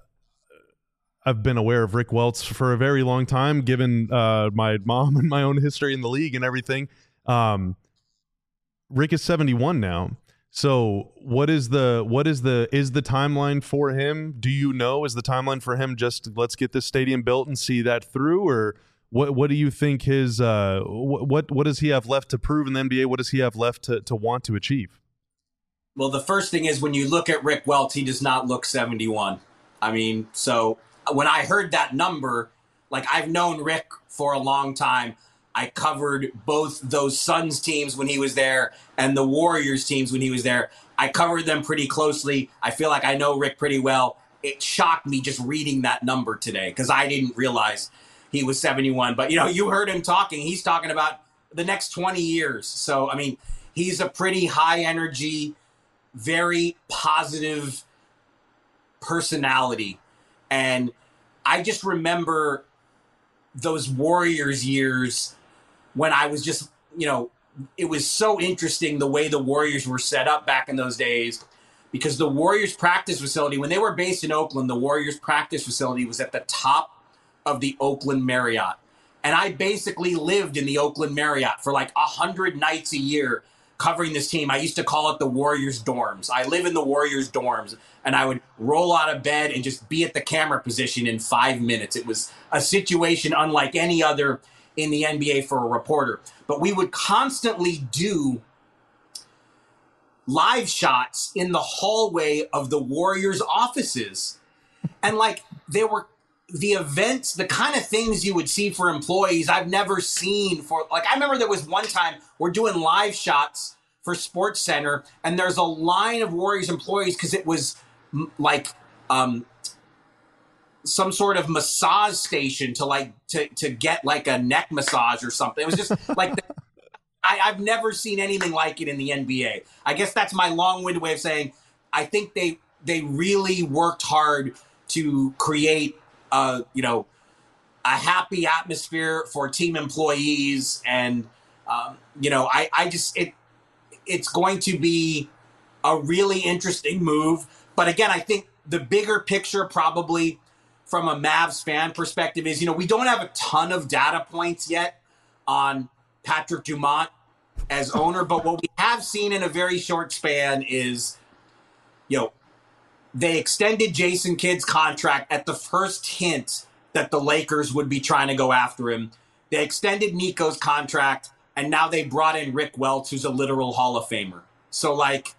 I've been aware of Rick Welts for a very long time, given uh, my mom and my own history in the league and everything. Um, Rick is seventy-one now. So what is the what is the is the timeline for him? Do you know, is the timeline for him just let's get this stadium built and see that through, or what what do you think his uh what what does he have left to prove in the N B A? What does he have left to to want to achieve? Well, the first thing is when you look at Rick Welts, he does not look seventy-one. I mean, so when I heard that number, like I've known Rick for a long time. I covered both those Suns teams when he was there and the Warriors teams when he was there. I covered them pretty closely. I feel like I know Rick pretty well. It shocked me just reading that number today because I didn't realize he was seventy-one. But, you know, you heard him talking. He's talking about the next twenty years. So, I mean, he's a pretty high energy, very positive personality. And I just remember those Warriors years when I was just, you know, it was so interesting the way the Warriors were set up back in those days because the Warriors practice facility, when they were based in Oakland, the Warriors practice facility was at the top of the Oakland Marriott. And I basically lived in the Oakland Marriott for like a hundred nights a year covering this team. I used to call it the Warriors dorms. I live in the Warriors dorms and I would roll out of bed and just be at the camera position in five minutes. It was a situation unlike any other in the N B A for a reporter. But we would constantly do live shots in the hallway of the Warriors offices. And like there were the events, the kind of things you would see for employees I've never seen for, like, I remember there was one time we're doing live shots for Sports Center and there's a line of Warriors employees because it was m- like, um, some sort of massage station to like to, to get like a neck massage or something. It was just like the, I, I've never seen anything like it in the N B A. I guess that's my long-winded way of saying I think they they really worked hard to create uh you know a happy atmosphere for team employees, and um, you know I I just it it's going to be a really interesting move. But again, I think the bigger picture probably from a Mavs fan perspective is, you know, we don't have a ton of data points yet on Patrick Dumont as owner, but what we have seen in a very short span is, you know, they extended Jason Kidd's contract at the first hint that the Lakers would be trying to go after him. They extended Nico's contract, and now they brought in Rick Welts, who's a literal Hall of Famer. So, like,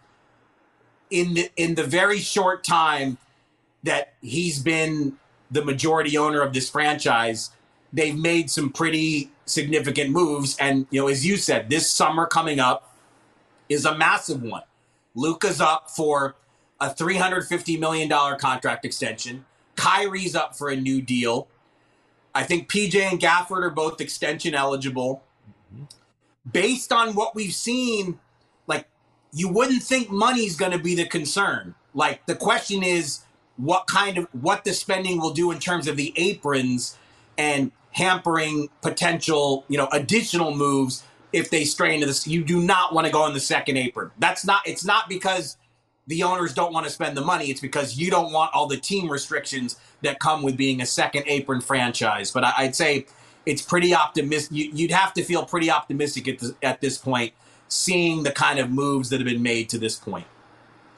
in the, in the very short time that he's been the majority owner of this franchise, they've made some pretty significant moves. And, you know, as you said, this summer coming up is a massive one. Luka's up for a three hundred fifty million dollars contract extension. Kyrie's up for a new deal. I think P J and Gafford are both extension eligible. Based on what we've seen, like, you wouldn't think money's going to be the concern. Like, the question is, what kind of what the spending will do in terms of the aprons and hampering potential, you know, additional moves if they stray into this. You do not want to go on the second apron. That's not, it's not because the owners don't want to spend the money. It's because you don't want all the team restrictions that come with being a second apron franchise. But I, I'd say it's pretty optimistic. You, you'd have to feel pretty optimistic at this, at this point, seeing the kind of moves that have been made to this point.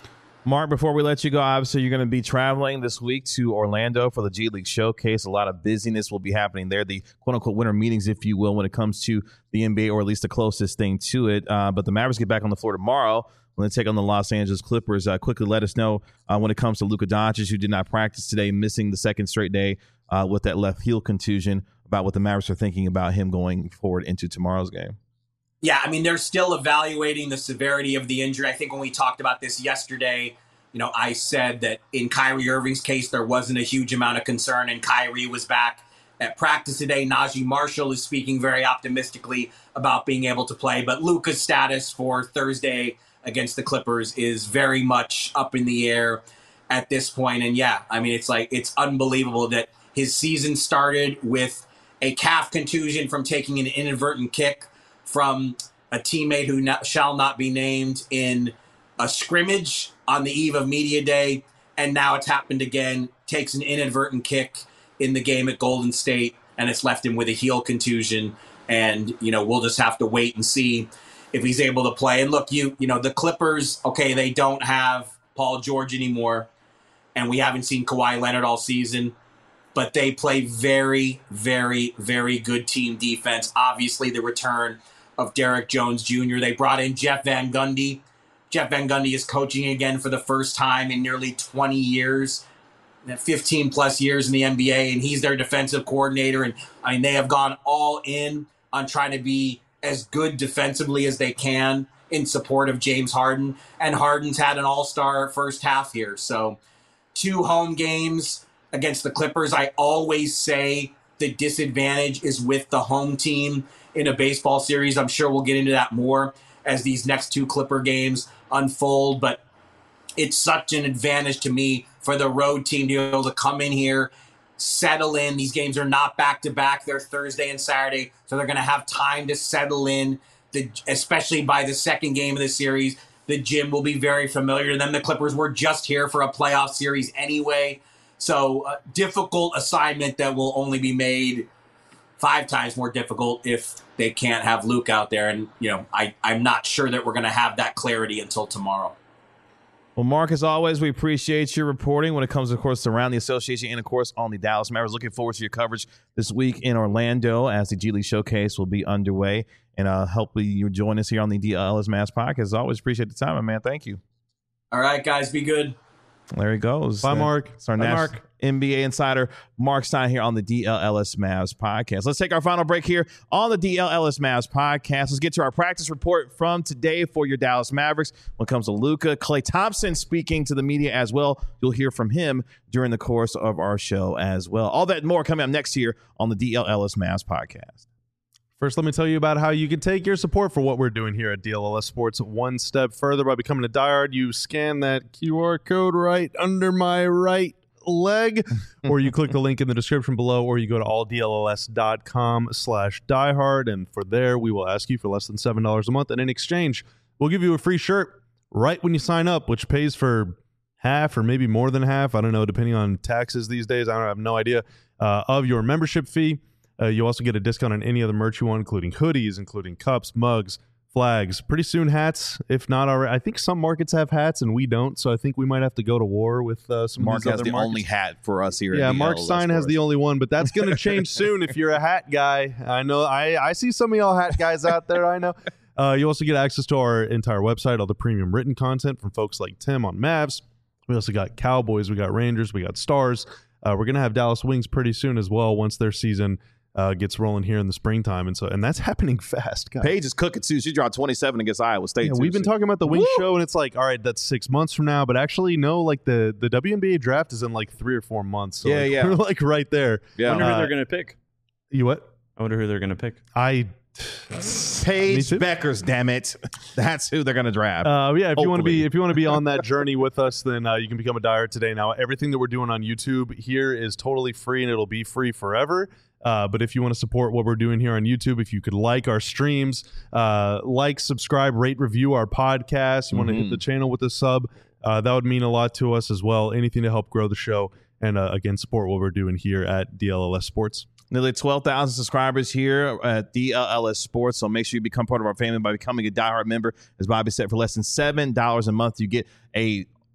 Mark, before we let you go, obviously you're going to be traveling this week to Orlando for the G League Showcase. A lot of busyness will be happening there, the quote-unquote winter meetings, if you will, when it comes to the N B A, or at least the closest thing to it. Uh, but the Mavericks get back on the floor tomorrow when they take on the Los Angeles Clippers. Uh, quickly let us know uh, when it comes to Luka Doncic, who did not practice today, missing the second straight day uh, with that left heel contusion, about what the Mavericks are thinking about him going forward into tomorrow's game. Yeah, I mean, they're still evaluating the severity of the injury. I think when we talked about this yesterday, you know, I said that in Kyrie Irving's case, there wasn't a huge amount of concern, and Kyrie was back at practice today. Najee Marshall is speaking very optimistically about being able to play, but Luka's status for Thursday against the Clippers is very much up in the air at this point. And yeah, I mean, it's like, it's unbelievable that his season started with a calf contusion from taking an inadvertent kick from a teammate who not, shall not be named in a scrimmage on the eve of media day, and now it's happened again. Takes an inadvertent kick in the game at Golden State, and it's left him with a heel contusion. And you know, we'll just have to wait and see if he's able to play. And look, you you know, the Clippers, okay, they don't have Paul George anymore, and we haven't seen Kawhi Leonard all season, but they play very, very, very good team defense. Obviously, the return of Derek Jones Junior They brought in Jeff Van Gundy. Jeff Van Gundy is coaching again for the first time in nearly twenty years, fifteen plus years in the N B A, and he's their defensive coordinator. And I mean, they have gone all in on trying to be as good defensively as they can in support of James Harden. And Harden's had an all-star first half here. So two home games against the Clippers. I always say the disadvantage is with the home team in a baseball series. I'm sure we'll get into that more as these next two Clipper games unfold, but it's such an advantage to me for the road team to be able to come in here, settle in. These games are not back-to-back. They're Thursday and Saturday, so they're going to have time to settle in, the, especially by the second game of the series. The gym will be very familiar to them. The Clippers were just here for a playoff series anyway, so a difficult assignment that will only be made five times more difficult if they can't have Luke out there. And, you know, I, I'm not sure that we're going to have that clarity until tomorrow. Well, Mark, as always, we appreciate your reporting when it comes, of course, around the association and, of course, on the Dallas Mavericks. Looking forward to your coverage this week in Orlando as the G League Showcase will be underway. And uh, hopefully you join us here on the D L L S Mavs podcast. As always, appreciate the time, my man. Thank you. All right, guys, be good. There he goes. Bye, Mark. It's our Bye, national Mark. N B A insider, Mark Stein, here on the D L L S Mavs podcast. Let's take our final break here on the D L L S Mavs podcast. Let's get to our practice report from today for your Dallas Mavericks. When it comes to Luka, Klay Thompson speaking to the media as well. You'll hear from him during the course of our show as well. All that and more coming up next here on the D L L S Mavs podcast. First, let me tell you about how you can take your support for what we're doing here at D L L S Sports one step further by becoming a diehard. You scan that Q R code right under my right leg, or you click the link in the description below, or you go to all D L L S dot com slash diehard, and for there, we will ask you for less than seven dollars a month, and in exchange, we'll give you a free shirt right when you sign up, which pays for half or maybe more than half, I don't know, depending on taxes these days, I don't I have no idea, uh, of your membership fee. Uh, you also get a discount on any other merch you want, including hoodies, including cups, mugs, flags, pretty soon hats, if not already. I think some markets have hats and we don't, so I think we might have to go to war with uh, some Mark of these has other the markets. only hat for us here. Yeah, at Mark Stein has the only one, but that's going to change soon if you're a hat guy. I know, I, I see some of y'all hat guys out there, I know. Uh, you also get access to our entire website, all the premium written content from folks like Tim on Mavs. We also got Cowboys, we got Rangers, we got Stars. Uh, we're going to have Dallas Wings pretty soon as well once their season Uh, gets rolling here in the springtime, and so and that's happening fast, guys. Paige is cooking too. She dropped twenty-seven against Iowa State. Yeah, too. we've been She- talking about the Wings Woo! show, and it's like, all right, that's six months from now, but actually, no, like the the W N B A draft is in like three or four months. So Yeah, like, yeah. we're like right there. Yeah. I wonder who Uh, they're going to pick. You what? I wonder who they're going to pick. I. Me Paige too. Beckers, damn it. That's who they're going to draft. Uh, yeah, if you want to be Hopefully. if you want to be on that journey with us, then uh, you can become a diehard today. Now, everything that we're doing on YouTube here is totally free, and it'll be free forever. Uh, but if you want to support what we're doing here on YouTube, if you could like our streams, uh, like, subscribe, rate, review our podcast, you want to hit Mhm. the channel with a sub, uh, that would mean a lot to us as well. Anything to help grow the show and, uh, again, support what we're doing here at D L L S Sports. Nearly twelve thousand subscribers here at D L L S Sports, so make sure you become part of our family by becoming a diehard member. As Bobby said, for less than seven dollars a month, you get a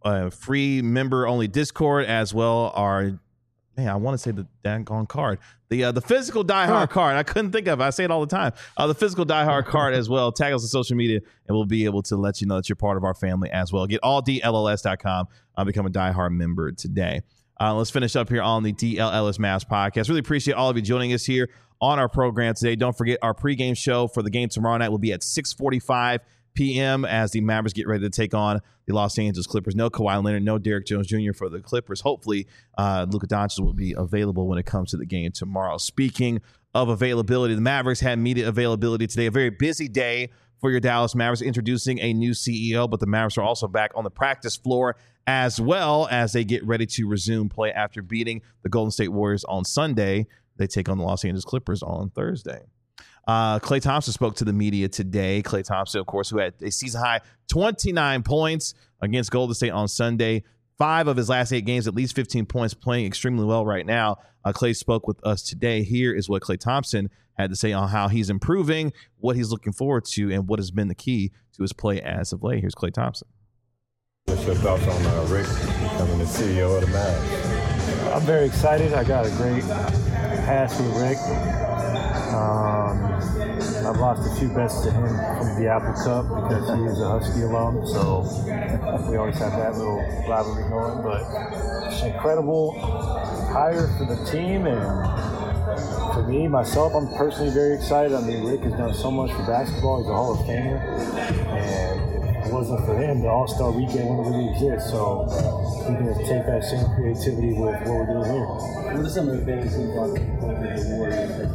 uh, free member only Discord, as well our man, I want to say the daggone card. The uh, the physical Die Hard huh. card. I couldn't think of it. I say it all the time. Uh, the physical Die Hard card as well. Tag us on social media, and we'll be able to let you know that you're part of our family as well. Get all D L L S dot com. Uh, become a Die Hard member today. Uh, let's finish up here on the D L L S Mavs podcast. Really appreciate all of you joining us here on our program today. Don't forget our pregame show for the game tomorrow night will be at six forty-five p.m. as the Mavericks get ready to take on the Los Angeles Clippers. No Kawhi Leonard, no Derrick Jones Junior for the Clippers. Hopefully, uh, Luka Doncic will be available when it comes to the game tomorrow. Speaking of availability, the Mavericks had media availability today. A very busy day for your Dallas Mavericks, introducing a new C E O, but the Mavericks are also back on the practice floor as well as they get ready to resume play after beating the Golden State Warriors on Sunday. They take on the Los Angeles Clippers on Thursday. Uh, Klay Thompson spoke to the media today. Klay Thompson, of course, who had a season-high twenty-nine points against Golden State on Sunday. Five of his last eight games, at least fifteen points, playing extremely well right now. Uh, Klay spoke with us today. Here is what Klay Thompson had to say on how he's improving, what he's looking forward to, and what has been the key to his play as of late. Here's Klay Thompson. What's your thoughts on uh, Rick becoming the C E O of the Mavs? I'm very excited. I got a great pass with Rick. Um, I've lost a few bets to him from the Apple Cup because he is a Husky alum, so we always have that little rivalry going. But it's an incredible hire for the team, and for me, myself, I'm personally very excited. I mean, Rick has done so much for basketball. He's a Hall of Famer, and if it wasn't for him, the All-Star Weekend wouldn't really exist. So we can take that same creativity with what we're doing here. What are some of the favorite things about the Warriors?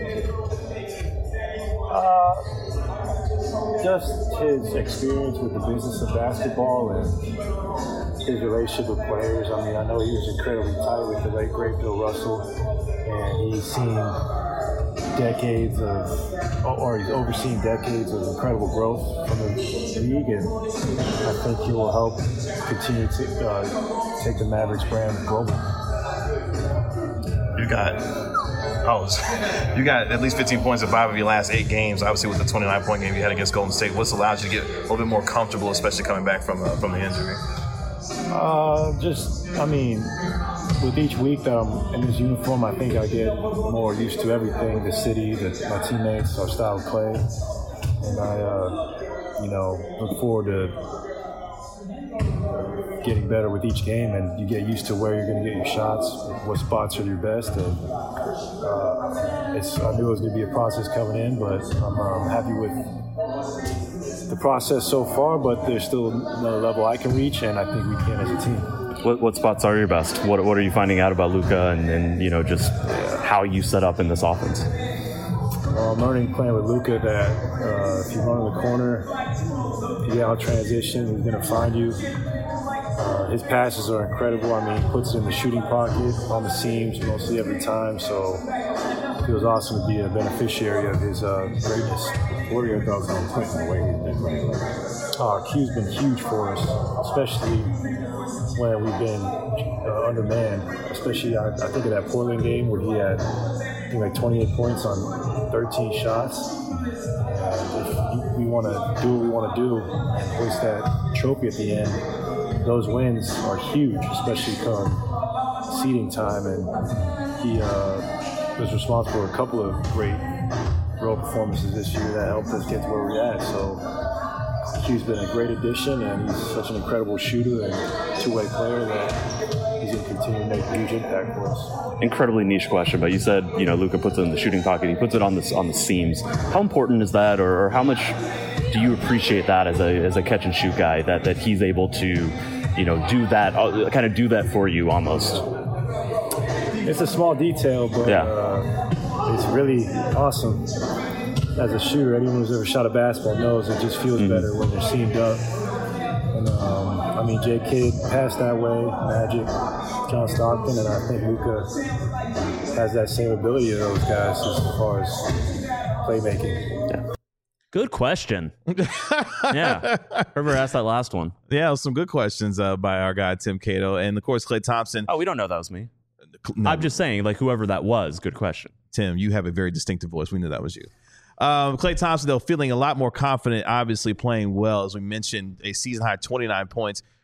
Uh, just his experience with the business of basketball and his relationship with players. I mean, I know he was incredibly tight with the late great Bill Russell, and he's seen decades of, or he's overseen decades of incredible growth from the league, and I think he will help continue to uh, take the Mavericks brand global. You got. Oh, you got at least fifteen points in five of your last eight games. Obviously, with the twenty-nine point game you had against Golden State, what's allowed you to get a little bit more comfortable, especially coming back from uh, from the injury? Uh, just, I mean, with each week that I'm in this uniform, I think I get more used to everything, the city, the, my teammates, our style of play. And I, uh, you know, look forward to getting better with each game, and you get used to where you're going to get your shots, what spots are your best. And uh, it's, I knew it was going to be a process coming in, but I'm um, happy with the process so far, but there's still another level I can reach, and I think we can as a team. What, what spots are your best? What What are you finding out about Luka, and, and you know, just how you set up in this offense? Well, I'm learning playing with Luka that uh, if you run in the corner, if you get out transition, he's going to find you. Uh, his passes are incredible. I mean, he puts it in the shooting pocket, on the seams, mostly every time. So it feels awesome to be a beneficiary of his uh, greatness. What are your thoughts on Quentin, the way he's been playing? Uh, Q's been huge for us, especially when we've been uh, undermanned. Especially, I, I think of that Portland game where he had, I think, like twenty-eight points on thirteen shots. And if we want to do what we want to do and hoist that trophy at the end, those wins are huge, especially come seeding time. And he uh, was responsible for a couple of great role performances this year that helped us get to where we're at. So Q's been a great addition, and he's such an incredible shooter and two-way player that he's going to continue to make a huge impact for us. Incredibly niche question, but you said, you know, Luka puts it in the shooting pocket. He puts it on the on the seams. How important is that, or, or how much do you appreciate that as a as a catch and shoot guy, that that he's able to, you know, do that, uh, kind of do that for you almost? It's a small detail, but yeah. uh, it's really awesome. As a shooter, anyone who's ever shot a basketball knows it just feels mm-hmm. better when they're seamed up. And um, I mean, J. Kidd passed that way, Magic, John Stockton, and I think Luka has that same ability to those guys as far as playmaking. Yeah. Good question. Yeah. Whoever asked that last one. Yeah, some good questions uh, by our guy, Tim Cato. And, of course, Klay Thompson. Oh, we don't know that was me. No. I'm just saying, like, whoever that was, good question. Tim, you have a very distinctive voice. We knew that was you. Um, Klay Thompson, though, feeling a lot more confident, obviously playing well. As we mentioned, a season-high twenty-nine points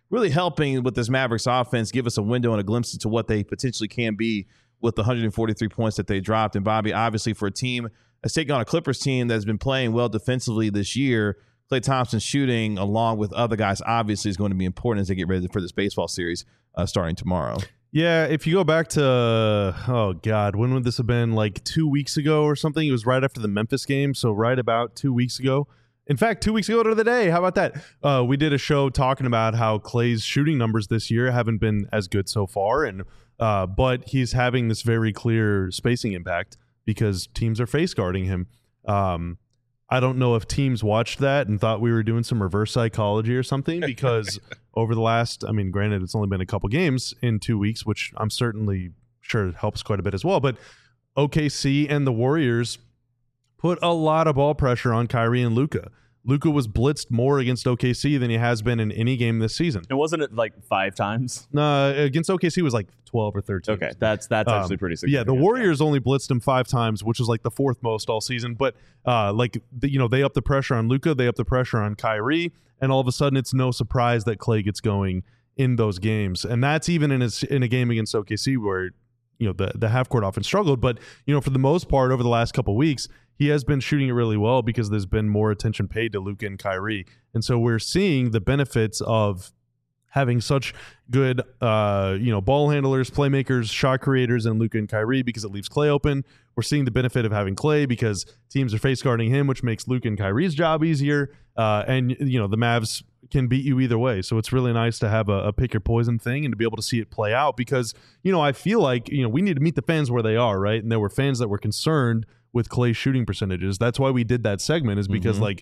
really helping with this Mavericks offense give us a window and a glimpse into what they potentially can be with the one hundred forty-three points that they dropped. And Bobby, obviously for a team that's taking on a Clippers team that's been playing well defensively this year, Klay Thompson shooting along with other guys obviously is going to be important as they get ready for this baseball series uh, starting tomorrow. Yeah, if you go back to, oh, God, when would this have been? Like two weeks ago or something? It was right after the Memphis game, so right about two weeks ago. In fact, two weeks ago to the day. How about that? Uh, we did a show talking about how Klay's shooting numbers this year haven't been as good so far, and uh, but he's having this very clear spacing impact because teams are face guarding him. Um, I don't know if teams watched that and thought we were doing some reverse psychology or something because over the last, I mean, granted, it's only been a couple games in two weeks, which I'm certainly sure helps quite a bit as well. But O K C and the Warriors put a lot of ball pressure on Kyrie and Luka. Luka was blitzed more against O K C than he has been in any game this season. And wasn't it like five times? No, uh, against O K C it was like twelve or thirteen. Okay, that's that's actually um, pretty Yeah, significant. the Warriors only blitzed him five times, which was like the fourth most all season. But uh, like the, you know, they up the pressure on Luka, they up the pressure on Kyrie, and all of a sudden it's no surprise that Klay gets going in those games. And that's even in a, in a game against O K C where you know the the half court offense struggled. But you know, for the most part over the last couple of weeks, he has been shooting it really well because there's been more attention paid to Luka and Kyrie. And so we're seeing the benefits of having such good, uh, you know, ball handlers, playmakers, shot creators, and Luka and Kyrie because it leaves Klay open. We're seeing the benefit of having Klay because teams are face guarding him, which makes Luka and Kyrie's job easier. Uh, and, you know, the Mavs can beat you either way. So it's really nice to have a, a pick your poison thing and to be able to see it play out because, you know, I feel like, you know, we need to meet the fans where they are, right? And there were fans that were concerned with Klay's shooting percentages. That's why we did that segment, is because, mm-hmm. like,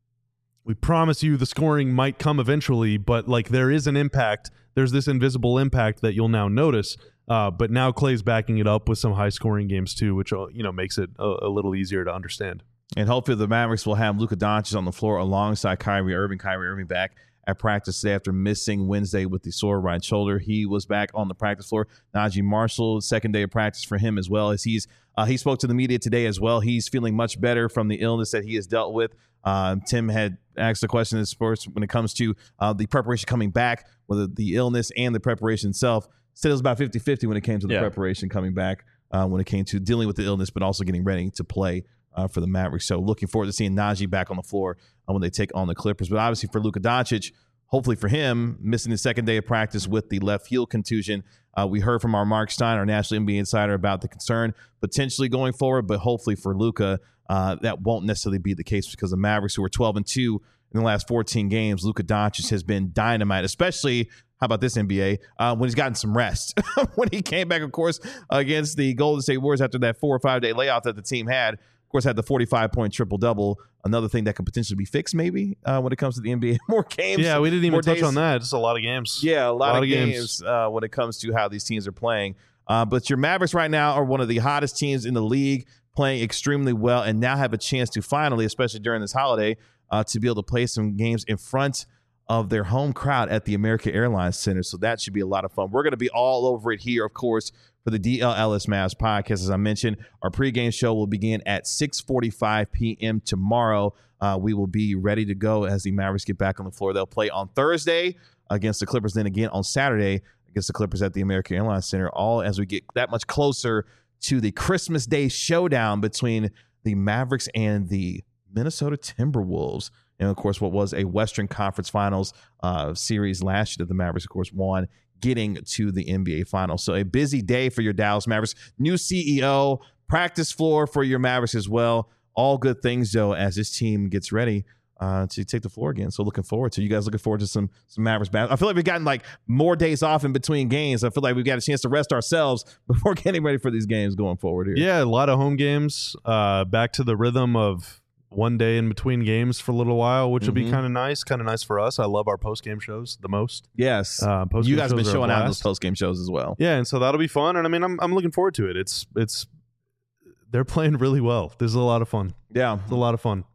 we promise you the scoring might come eventually, but, like, there is an impact. There's this invisible impact that you'll now notice. Uh, but now Klay's backing it up with some high-scoring games, too, which, you know, makes it a, a little easier to understand. And hopefully the Mavericks will have Luka Doncic on the floor alongside Kyrie Irving. Kyrie Irving back at practice today after missing Wednesday with the sore right shoulder. He was back on the practice floor. Najee Marshall, second day of practice for him as well. As he's uh, he spoke to the media today as well. He's feeling much better from the illness that he has dealt with. Um, Tim had asked a question in sports when it comes to uh, the preparation coming back, whether the illness and the preparation itself. Said it was about fifty-fifty when it came to the yeah. preparation coming back, uh, when it came to dealing with the illness, but also getting ready to play uh, for the Mavericks. So looking forward to seeing Najee back on the floor uh, when they take on the Clippers. But obviously for Luka Doncic, hopefully for him, missing the second day of practice with the left heel contusion. Uh, we heard from our Mark Stein, our National N B A insider, about the concern potentially going forward, but hopefully for Luka, uh, that won't necessarily be the case because the Mavericks, who are twelve and two in the last fourteen games, Luka Doncic has been dynamite, especially, how about this, N B A, uh, when he's gotten some rest. When he came back, of course, against the Golden State Warriors after that four or five day layoff that the team had. Of course, had the forty-five point triple-double, another thing that could potentially be fixed maybe uh, when it comes to the N B A. More games. Yeah, we didn't even touch days. on that. Just a lot of games. Yeah, a lot, a lot of, of games, games. Uh, when it comes to how these teams are playing. Uh, but your Mavericks right now are one of the hottest teams in the league, playing extremely well, and now have a chance to finally, especially during this holiday, uh, to be able to play some games in front of their home crowd at the American Airlines Center. So that should be a lot of fun. We're going to be all over it here, of course, for the D L L S Mavs podcast. As I mentioned, our pregame show will begin at six forty-five p.m. tomorrow. Uh, we will be ready to go as the Mavericks get back on the floor. They'll play on Thursday against the Clippers, then again on Saturday against the Clippers at the American Airlines Center, all as we get that much closer to the Christmas Day showdown between the Mavericks and the Minnesota Timberwolves. And, of course, what was a Western Conference Finals uh, series last year that the Mavericks, of course, won, getting to the N B A Finals. So a busy day for your Dallas Mavericks. New C E O, practice floor for your Mavericks as well. All good things, though, as this team gets ready uh, to take the floor again. So looking forward to you guys looking forward to some some Mavericks basketball. I feel like we've gotten like more days off in between games. I feel like we've got a chance to rest ourselves before getting ready for these games going forward here. Yeah, a lot of home games. Uh, back to the rhythm of one day in between games for a little while, which mm-hmm. will be kind of nice, kind of nice for us. I love our post-game shows the most. Yes. Uh, you guys have been showing out those post-game shows as well. Yeah, and so that'll be fun. And I mean, I'm I'm looking forward to it. It's it's they're playing really well. This is a lot of fun. Yeah. It's a lot of fun.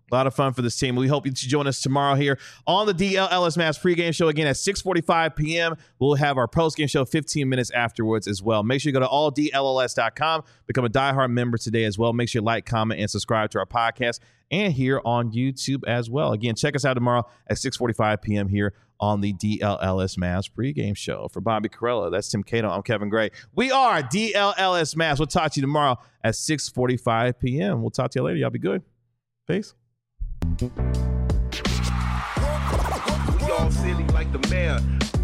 A lot of fun for this team. We hope you join us tomorrow here on the D L L S Mavs pregame show again at six forty-five p.m. We'll have our postgame show fifteen minutes afterwards as well. Make sure you go to all D L L S dot com. Become a diehard member today as well. Make sure you like, comment, and subscribe to our podcast and here on YouTube as well. Again, check us out tomorrow at six forty-five p.m. here on the D L L S Mavs pregame show. For Bobby Karalla, that's Tim Cato. I'm Kevin Gray. We are D L L S Mavs. We'll talk to you tomorrow at six forty-five p.m. We'll talk to you later. Y'all be good. Peace. We all silly like the mayor.